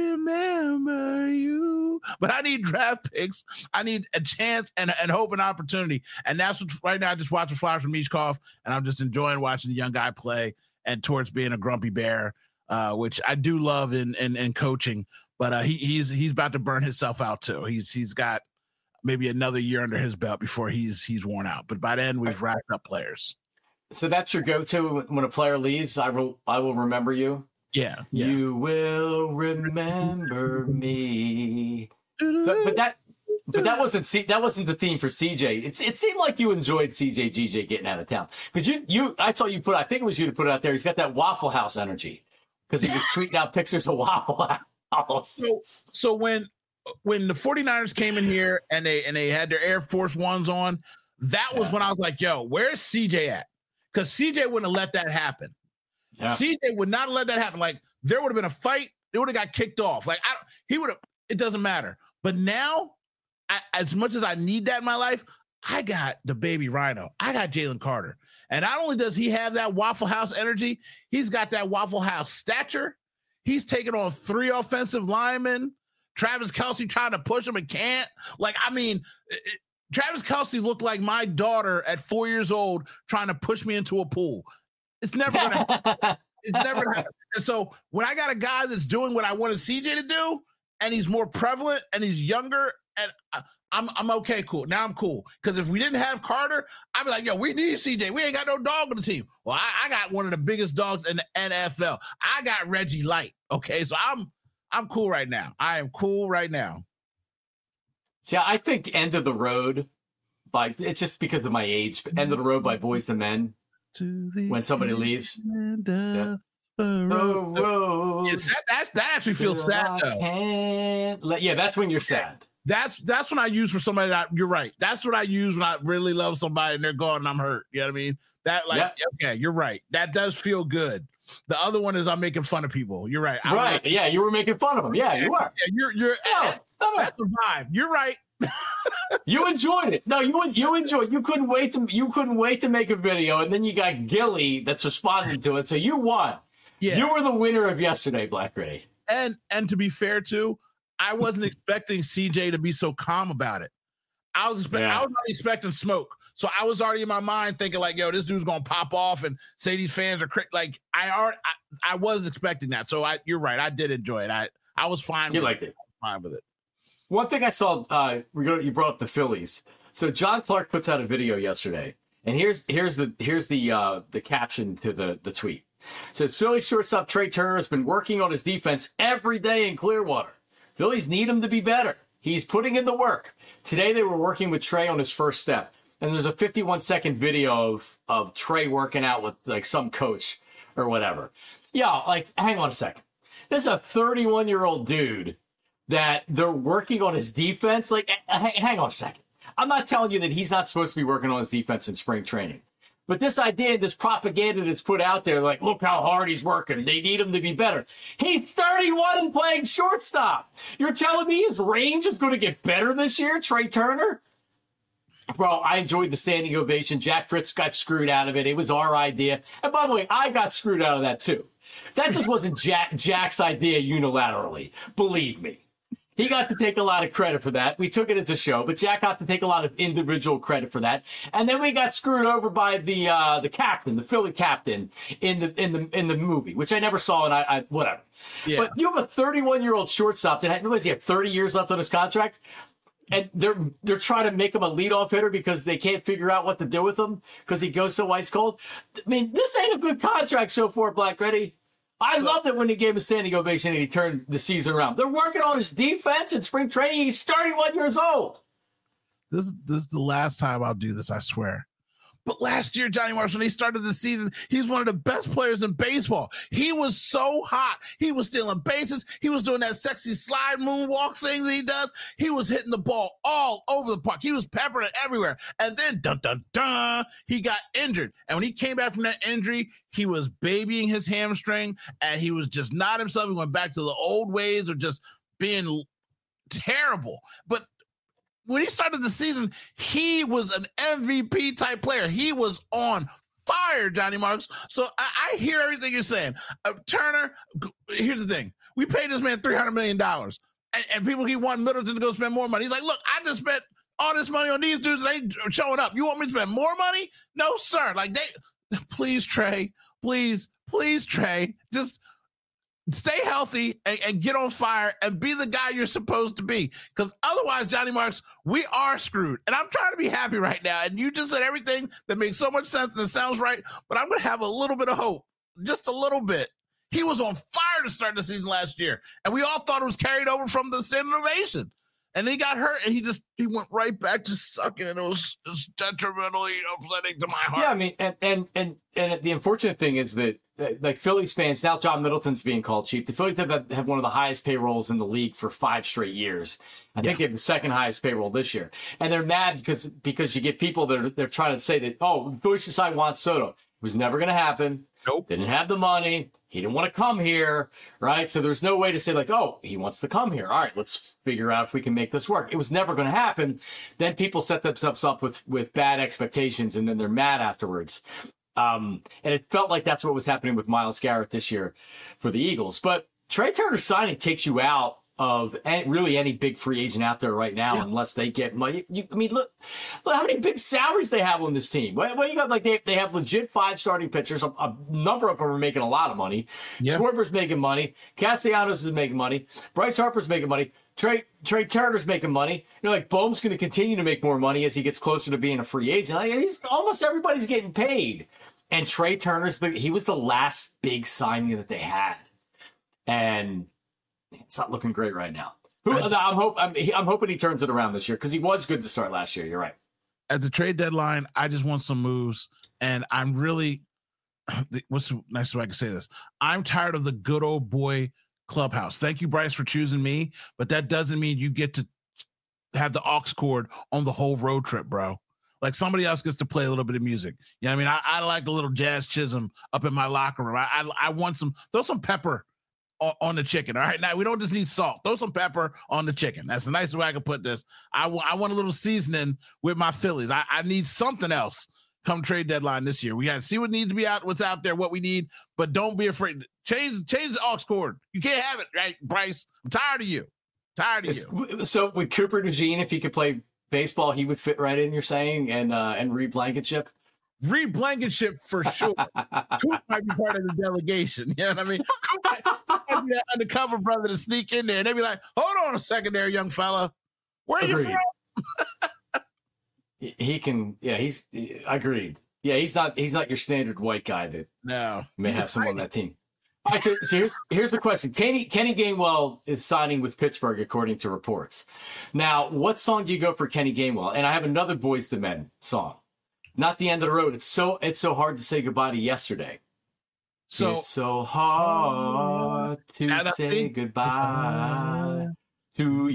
remember you. But I need draft picks. I need a chance and, and hope and opportunity. And that's what right now I just watch the Flyers from Michkov, and I'm just enjoying watching the young guy play and towards being a grumpy bear, uh, which I do love in in, in coaching. But uh, he, he's he's about to burn himself out too. He's he's got maybe another year under his belt before he's he's worn out. But by then we've racked up players.
So that's your go-to when a player leaves. I will I will remember you.
Yeah, yeah.
You will remember me. So, but that, but that wasn't C, that wasn't the theme for C J. It's it seemed like you enjoyed C J G J getting out of town because you you I saw you put I think it was you to put it out there. He's got that Waffle House energy because he was tweeting out pictures of Waffle House.
So, so when when the 49ers came in here and they and they had their Air Force Ones on, that was
Yeah.
when I was like, yo, where's C J at? Because C J wouldn't have let that happen.
Yeah.
C J would not have let that happen. Like, there would have been a fight. It would have got kicked off. Like, I, he would have it doesn't matter. But now, I, as much as I need that in my life, I got the baby Rhino. I got Jalen Carter. And not only does he have that Waffle House energy, he's got that Waffle House stature. He's taken on three offensive linemen. Travis Kelce trying to push him and can't. Like, I mean, it, Travis Kelce looked like my daughter at four years old trying to push me into a pool. It's never going to happen. It's never going to happen. And so when I got a guy that's doing what I wanted C J to do, and he's more prevalent and he's younger, and I'm I'm okay, cool. Now I'm cool. Because if we didn't have Carter, I'd be like, yo, we need C J. We ain't got no dog on the team. Well, I, I got one of the biggest dogs in the N F L. I got Reggie Light. Okay, so I'm I'm cool right now. I am cool right now.
See, I think End of the Road by it's just because of my age, but End of the Road by Boyz two Men.
To the
when somebody leaves.
Yeah.
The road. road
yes, that, that, that actually feels sad, though.
Let, yeah, that's when you're sad.
That's that's when I use for somebody that you're right. That's what I use when I really love somebody and they're gone and I'm hurt. You know what I mean? That like yep. Okay, you're right. That does feel good. The other one is I'm making fun of people. You're right. I
right. Was, yeah, you were making fun of them. Yeah, you were.
Yeah, you're you're no, no, no. That's the vibe. You're right.
You enjoyed it. No, you you enjoyed. You couldn't wait to you couldn't wait to make a video, and then you got Gilly that's responding to it. So you won. Yeah. You were the winner of yesterday, Black Gritty.
And and to be fair too, I wasn't expecting C J to be so calm about it. I was expect- yeah. I was already expecting smoke. So I was already in my mind thinking like, yo, this dude's gonna pop off and say these fans are cra-. like I already I, I was expecting that. So I you're right. I did enjoy it. I I was fine
you
with
liked
it.
it.
Fine with it.
One thing I saw, uh, you brought up the Phillies. So John Clark puts out a video yesterday, and here's here's the here's the uh, the caption to the the tweet. It says Phillies shortstop Trey Turner has been working on his defense every day in Clearwater. Phillies need him to be better. He's putting in the work. Today they were working with Trey on his first step, and there's a fifty-one second video of of Trey working out with like some coach or whatever. Yeah, like hang on a second. This is a thirty-one year old dude that they're working on his defense. Like, hang on a second. I'm not telling you that he's not supposed to be working on his defense in spring training. But this idea, this propaganda that's put out there, like, look how hard he's working. They need him to be better. He's thirty-one and playing shortstop. You're telling me his range is going to get better this year, Trey Turner? Bro, I enjoyed the standing ovation. Jack Fritz got screwed out of it. It was our idea. And by the way, I got screwed out of that too. That just wasn't Jack, Jack's idea unilaterally. Believe me. He got to take a lot of credit for that. We took it as a show, but Jack got to take a lot of individual credit for that. And then we got screwed over by the uh, the captain, the Philly captain in the in the in the movie, which I never saw, and I, I whatever. Yeah. But you have a thirty-one year old shortstop that had, what does he have, thirty years left on his contract, and they're they're trying to make him a leadoff hitter because they can't figure out what to do with him because he goes so ice cold. I mean, this ain't a good contract so far, Black Gritty. I so, loved it when he gave a standing ovation and he turned the season around. They're working on his defense in spring training. He's thirty-one years old.
This, this is the last time I'll do this, I swear. But last year, Johnny Marshall, when he started the season, he's one of the best players in baseball. He was so hot. He was stealing bases. He was doing that sexy slide moonwalk thing that he does. He was hitting the ball all over the park. He was peppering it everywhere. And then, dun, dun, dun, he got injured. And when he came back from that injury, he was babying his hamstring, and he was just not himself. He went back to the old ways of just being terrible. But when he started the season, he was an M V P type player. He was on fire, Johnny Marks. So I, I hear everything you're saying. Uh, Turner, here's the thing. We paid this man three hundred million dollars, and, and people keep wanting Middleton to go spend more money. He's like, look, I just spent all this money on these dudes, and they ain't showing up. You want me to spend more money? No, sir. Like, they, please, Trey, please, please, Trey, just stay healthy and, and get on fire and be the guy you're supposed to be. Because otherwise, Johnny Marks, we are screwed. And I'm trying to be happy right now. And you just said everything that makes so much sense and it sounds right. But I'm going to have a little bit of hope, just a little bit. He was on fire to start the season last year. And we all thought it was carried over from the standing ovation. And then he got hurt, and he just he went right back to sucking, and it was, it was detrimentally upsetting to my heart.
Yeah, I mean, and and and and the unfortunate thing is that, like, Phillies fans, now John Middleton's being called cheap. The Phillies have have one of the highest payrolls in the league for five straight years. I think yeah. they have the second highest payroll this year, and they're mad because because you get people that are they're trying to say that, oh, the Phillies should sign Juan Soto. was never going to happen.
Nope.
Didn't have the money. He didn't want to come here, right? So there's no way to say like, oh, he wants to come here. All right, let's figure out if we can make this work. It was never going to happen. Then people set themselves up with with bad expectations, and then they're mad afterwards. Um, and it felt like that's what was happening with Myles Garrett this year for the Eagles. But Trey Turner's signing takes you out of any, really any big free agent out there right now, yeah. unless they get money. You, I mean, look, look how many big salaries they have on this team. What, what do you got? Like they, they have legit five starting pitchers. A, a number of them are making a lot of money. Yeah. Schwarber's making money. Castellanos is making money. Bryce Harper's making money. Trey Trey Turner's making money. You know, like Bohm's going to continue to make more money as he gets closer to being a free agent. Like, he's, almost everybody's getting paid. And Trey Turner's the, he was the last big signing that they had, and it's not looking great right now. Who, I'm, hope, I'm, I'm hoping he turns it around this year because he was good to start last year. You're right.
At the trade deadline, I just want some moves, and I'm really what's the nicest way I can say this? I'm tired of the good old boy clubhouse. Thank you, Bryce, for choosing me, but that doesn't mean you get to have the aux cord on the whole road trip, bro. Like somebody else gets to play a little bit of music. You know what I mean? I, I like a little Jazz Chisholm up in my locker room. I, I, I want some, throw some pepper on, on the chicken. All right. Now we don't just need salt. Throw some pepper on the chicken. That's the nicest way I can put this. I, w- I want a little seasoning with my Phillies. I, I need something else come trade deadline this year. We got to see what needs to be out, what's out there, what we need, but don't be afraid. Change, change the aux cord. You can't have it, right, Bryce? I'm tired of you. Tired of
it's,
you.
So with Cooper DeJean, if he could play baseball, he would fit right in, you're saying, and uh, and Reed Blankenship?
Reed Blankenship for sure. Coop might be part of the delegation. You know what I mean? Coop might, might be that undercover brother to sneak in there, and they'd be like, hold on a second there, young fella. Where are Agreed. you from?
he, he can, yeah, he's, he, agreed. Yeah, he's not he's not your standard white guy that
no
may have someone on that team. All right, so, so here's here's the question. Kenny Kenny Gainwell is signing with Pittsburgh, according to reports. Now, what song do you go for Kenny Gainwell? And I have another Boyz two Men song. Not the End of the Road. It's so it's so hard to say goodbye to yesterday. So it's so hard to say goodbye to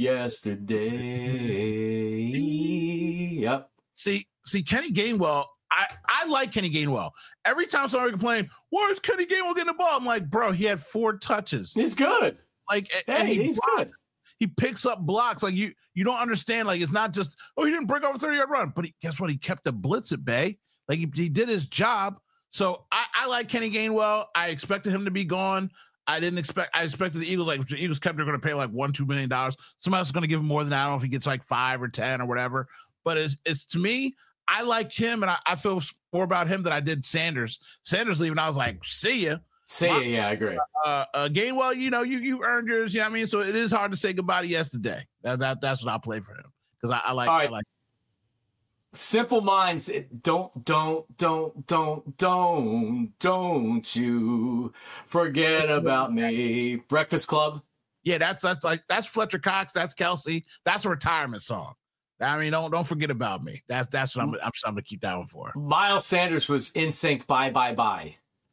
yesterday. Yep.
See, see, Kenny Gainwell. I, I like Kenny Gainwell. Every time somebody complains, where's Kenny Gainwell getting the ball? I'm like, bro, he had four touches.
He's good.
Like,
hey,
and he
he's
blocks.
good.
He picks up blocks. Like you, you don't understand. Like it's not just, oh, he didn't break over a thirty yard run, but he, guess what? He kept the blitz at bay. Like he, he did his job. So I, I like Kenny Gainwell. I expected him to be gone. I didn't expect. I expected the Eagles. Like the Eagles kept, they're going to pay like one, two million dollars. Somebody else is going to give him more than that. I don't know if he gets like five or ten or whatever. But it's, it's to me. I like him, and I, I feel more about him than I did Sanders. Sanders leaving, I was like, see ya.
See ya, yeah, I agree.
Uh, uh, Gainwell, you know, you you earned yours, you know what I mean? So it is hard to say goodbye to yesterday. That, that That's what I'll play for him, because I, I like
right.
I like
Simple Minds, don't, don't, don't, don't, don't, don't you forget about me. Breakfast Club.
Yeah, that's that's like that's Fletcher Cox, that's Kelsey. That's a retirement song. I mean, don't don't forget about me. That's that's what I'm I'm, I'm gonna keep that one for.
Miles Sanders was in sync. Bye bye bye.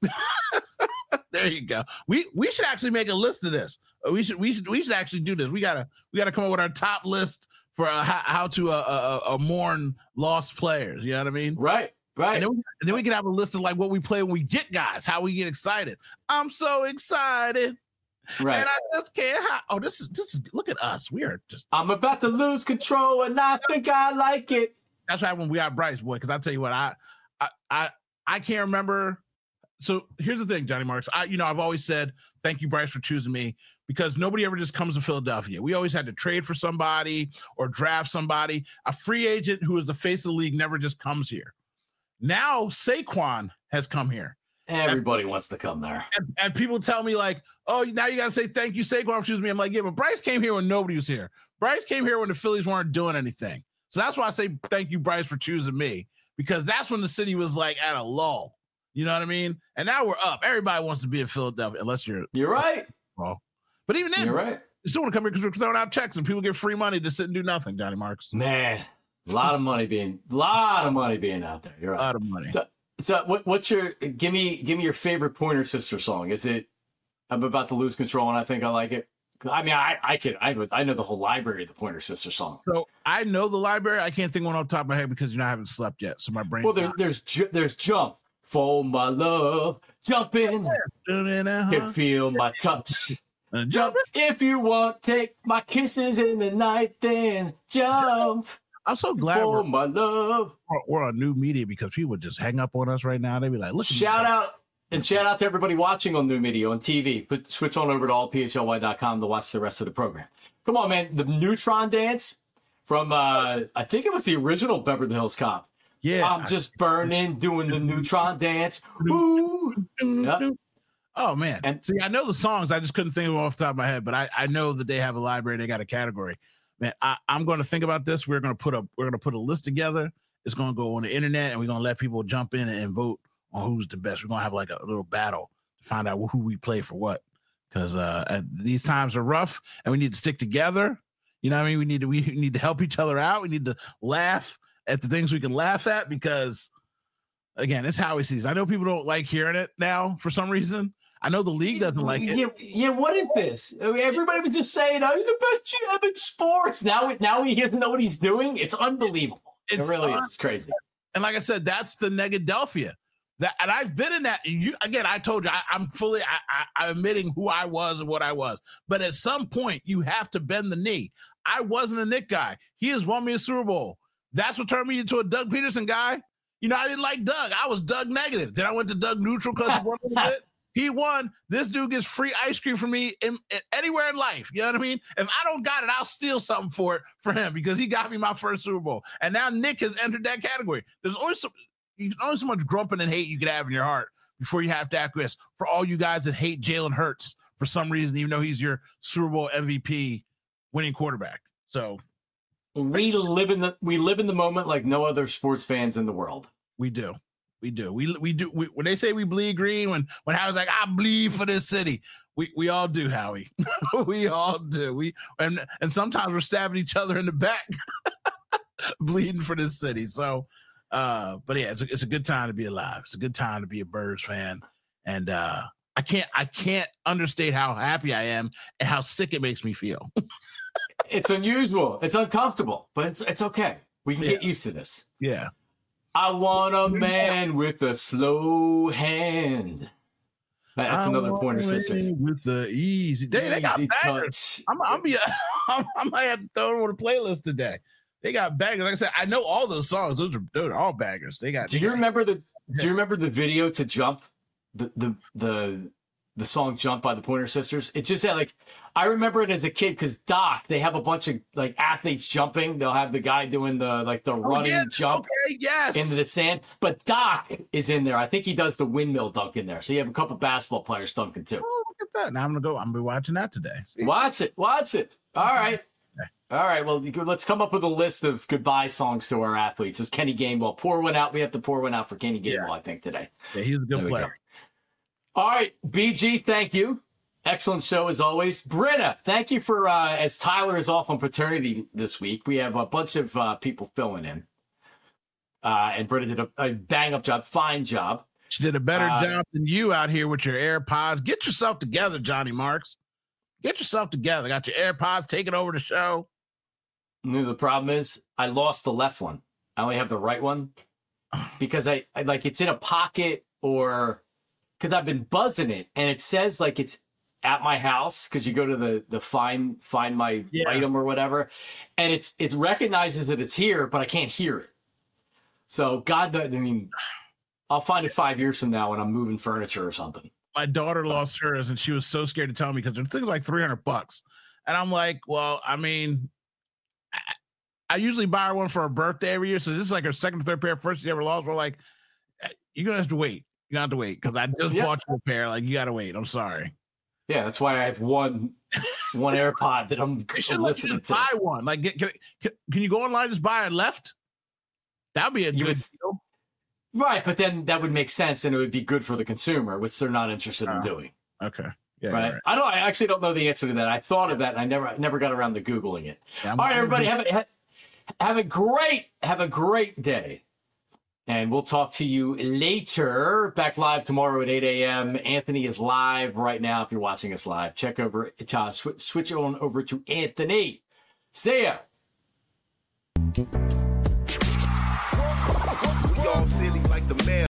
There you go. We we should actually make a list of this. We should we should we should actually do this. We gotta we gotta come up with our top list for uh, how, how to uh, uh, uh, mourn lost players. You know what I mean?
Right, right.
And then, we, and then we can have a list of like what we play when we get guys, how we get excited. I'm so excited.
Right.
And I just can't. Ha- oh, this is this is. Look at us. We are just.
I'm about to lose control, and I think I like it.
That's why when we got Bryce, boy, because I tell you what, I, I, I, I can't remember. So here's the thing, Johnny Marks. I, you know, I've always said thank you, Bryce, for choosing me, because nobody ever just comes to Philadelphia. We always had to trade for somebody or draft somebody. A free agent who is the face of the league never just comes here. Now Saquon has come here.
Everybody
and,
wants to come there.
And, and people tell me like, oh, now you got to say thank you, Saquon, for choosing me. I'm like, yeah, but Bryce came here when nobody was here. Bryce came here when the Phillies weren't doing anything. So that's why I say thank you, Bryce, for choosing me, because that's when the city was like at a lull. You know what I mean? And now we're up. Everybody wants to be in Philadelphia, unless you're.
You're right.
Well, but even then,
you're right.
You still want to come here because we're throwing out checks and people get free money to sit and do nothing, Johnny Marks.
Man, a lot of money being, a lot of money being out there. You're right.
A lot of money.
So, So what, what's your give me give me your favorite Pointer Sister song? Is it I'm about to lose control and I think I like it? I mean, I I could I I know the whole library of the Pointer Sister songs.
So I know the library. I can't think one off the top of my head because you know I haven't slept yet, so my brain.
Well, there, there's ju- there's Jump, for my love. Jump in, can feel my touch. Jump if you want. Take my kisses in the night, then jump.
I'm so glad
for
we're,
my love.
we're on new media because people would just hang up on us right now. They'd be like, look.
Shout out and shout out to everybody watching on new media on T V. Put, switch on over to all p h l y dot com to watch the rest of the program. Come on, man. The Neutron dance from, uh, I think it was the original Beverly Hills Cop.
Yeah.
I'm just burning, doing the Neutron dance. Ooh. Yep.
Oh, man.
And-
See, I know the songs. I just couldn't think of them off the top of my head, but I, I know that they have a library. They got a category. Man, I, I'm going to think about this. We're going to put a we're going to put a list together. It's going to go on the internet, and we're going to let people jump in and, and vote on who's the best. We're going to have like a little battle to find out who we play for what. Because uh, these times are rough, and we need to stick together. You know what I mean? We need to we need to help each other out. We need to laugh at the things we can laugh at because, again, it's Howie season. I know people don't like hearing it now for some reason. I know the league doesn't like it.
Yeah, yeah. What is this? I mean, everybody was just saying, "I'm the best G M in sports." Now, now he doesn't know what he's doing. It's unbelievable.
It's
it really
un-
is. It's crazy.
And like I said, that's the Negadelphia. That and I've been in that. You again. I told you I, I'm fully. I, I, I'm admitting who I was and what I was. But at some point, you have to bend the knee. I wasn't a Nick guy. He has won me a Super Bowl. That's what turned me into a Doug Peterson guy. You know, I didn't like Doug. I was Doug negative. Then I went to Doug neutral because he won a little bit. He won. This dude gets free ice cream from me in, in, anywhere in life. You know what I mean? If I don't got it, I'll steal something for it for him because he got me my first Super Bowl. And now Nick has entered that category. There's always some, there's only so much grumping and hate you could have in your heart before you have to acquiesce. For all you guys that hate Jalen Hurts for some reason, even though he's your Super Bowl M V P winning quarterback. So
we live in the we live in the moment like no other sports fans in the world.
We do. We do. We we do. We, when they say we bleed green, when when Howie's like, I bleed for this city, we we all do, Howie. We all do. We and and sometimes we're stabbing each other in the back, bleeding for this city. So, uh, but yeah, it's a, it's a good time to be alive. It's a good time to be a Birds fan, and uh, I can't I can't understate how happy I am and how sick it makes me feel.
It's unusual. It's uncomfortable, but it's it's okay. We can
Yeah.
get used to this.
Yeah.
I want a man with a slow hand. That's another Pointer Sisters.
With the easy, they, they got
Easy
bangers.
touch.
I'm, I'm be, I'm, I might have to throw them on a playlist today. They got bangers. Like I said, I know all those songs. Those are, those are all bangers. They got.
Do you remember the? Do you remember the video to Jump? The the the the song Jump by the Pointer Sisters. It just had like, I remember it as a kid because Doc, they have a bunch of like athletes jumping. They'll have the guy doing the like the
Oh,
running
yeah.
jump
Okay, yes.
into the sand. But Doc is in there. I think he does the windmill dunk in there. So you have a couple basketball players dunking too.
Oh, look at that. Now I'm gonna go. I'm gonna be watching that today. See?
Watch it. Watch it. All right. All right. Well, let's come up with a list of goodbye songs to our athletes. As Kenny Gainwell, pour one out. We have to pour one out for Kenny Gainwell,
Yes.
I think, today.
Yeah, he's a
There
good
we
player.
go. All right, B G, thank you. Excellent show as always. Britta, thank you for, uh, as Tyler is off on paternity this week, we have a bunch of uh, people filling in. Uh, and Britta did a, a bang-up job, fine job.
She did a better
Uh,
job than you out here with your AirPods. Get yourself together, Johnny Marks. Get yourself together. Got your AirPods taking over the show.
You know, the problem is I lost the left one. I only have the right one because I, I like it's in a pocket or because I've been buzzing it and it says like it's at my house because you go to the the find find my
Yeah.
item or whatever, and it's it recognizes that it's here, but I can't hear it. So God, knows- I mean, I'll find it five years from now when I'm moving furniture or something.
My daughter lost hers, and she was so scared to tell me because the thing's like three hundred bucks. And I'm like, well, I mean, I, I usually buy her one for her birthday every year. So this is like her second or third pair. First she ever lost. We're like, you're going to have to wait. You're going to have to wait because I just
Yeah.
bought you a pair. Like, you got to wait. I'm sorry.
Yeah, that's why I have one one AirPod that I'm
They should let you
listening
just
to.
buy one. Like, get, can, can, can you go online and just buy it left? That'd be a
You
good
would-
deal.
Right, but then that would make sense and it would be good for the consumer, which they're not interested in
Uh,
doing.
Okay. Yeah,
Right?
you're right.
I don't I actually don't know the answer to that. I thought of that and I never I never got around to Googling it.
Yeah, I'm-
All right, everybody, have a ha- have a great have a great day. And we'll talk to you later. Back live tomorrow at eight a.m. Anthony is live right now. If you're watching us live, check over, uh, sw- switch on over to Anthony. See ya.
We all silly like the mayor.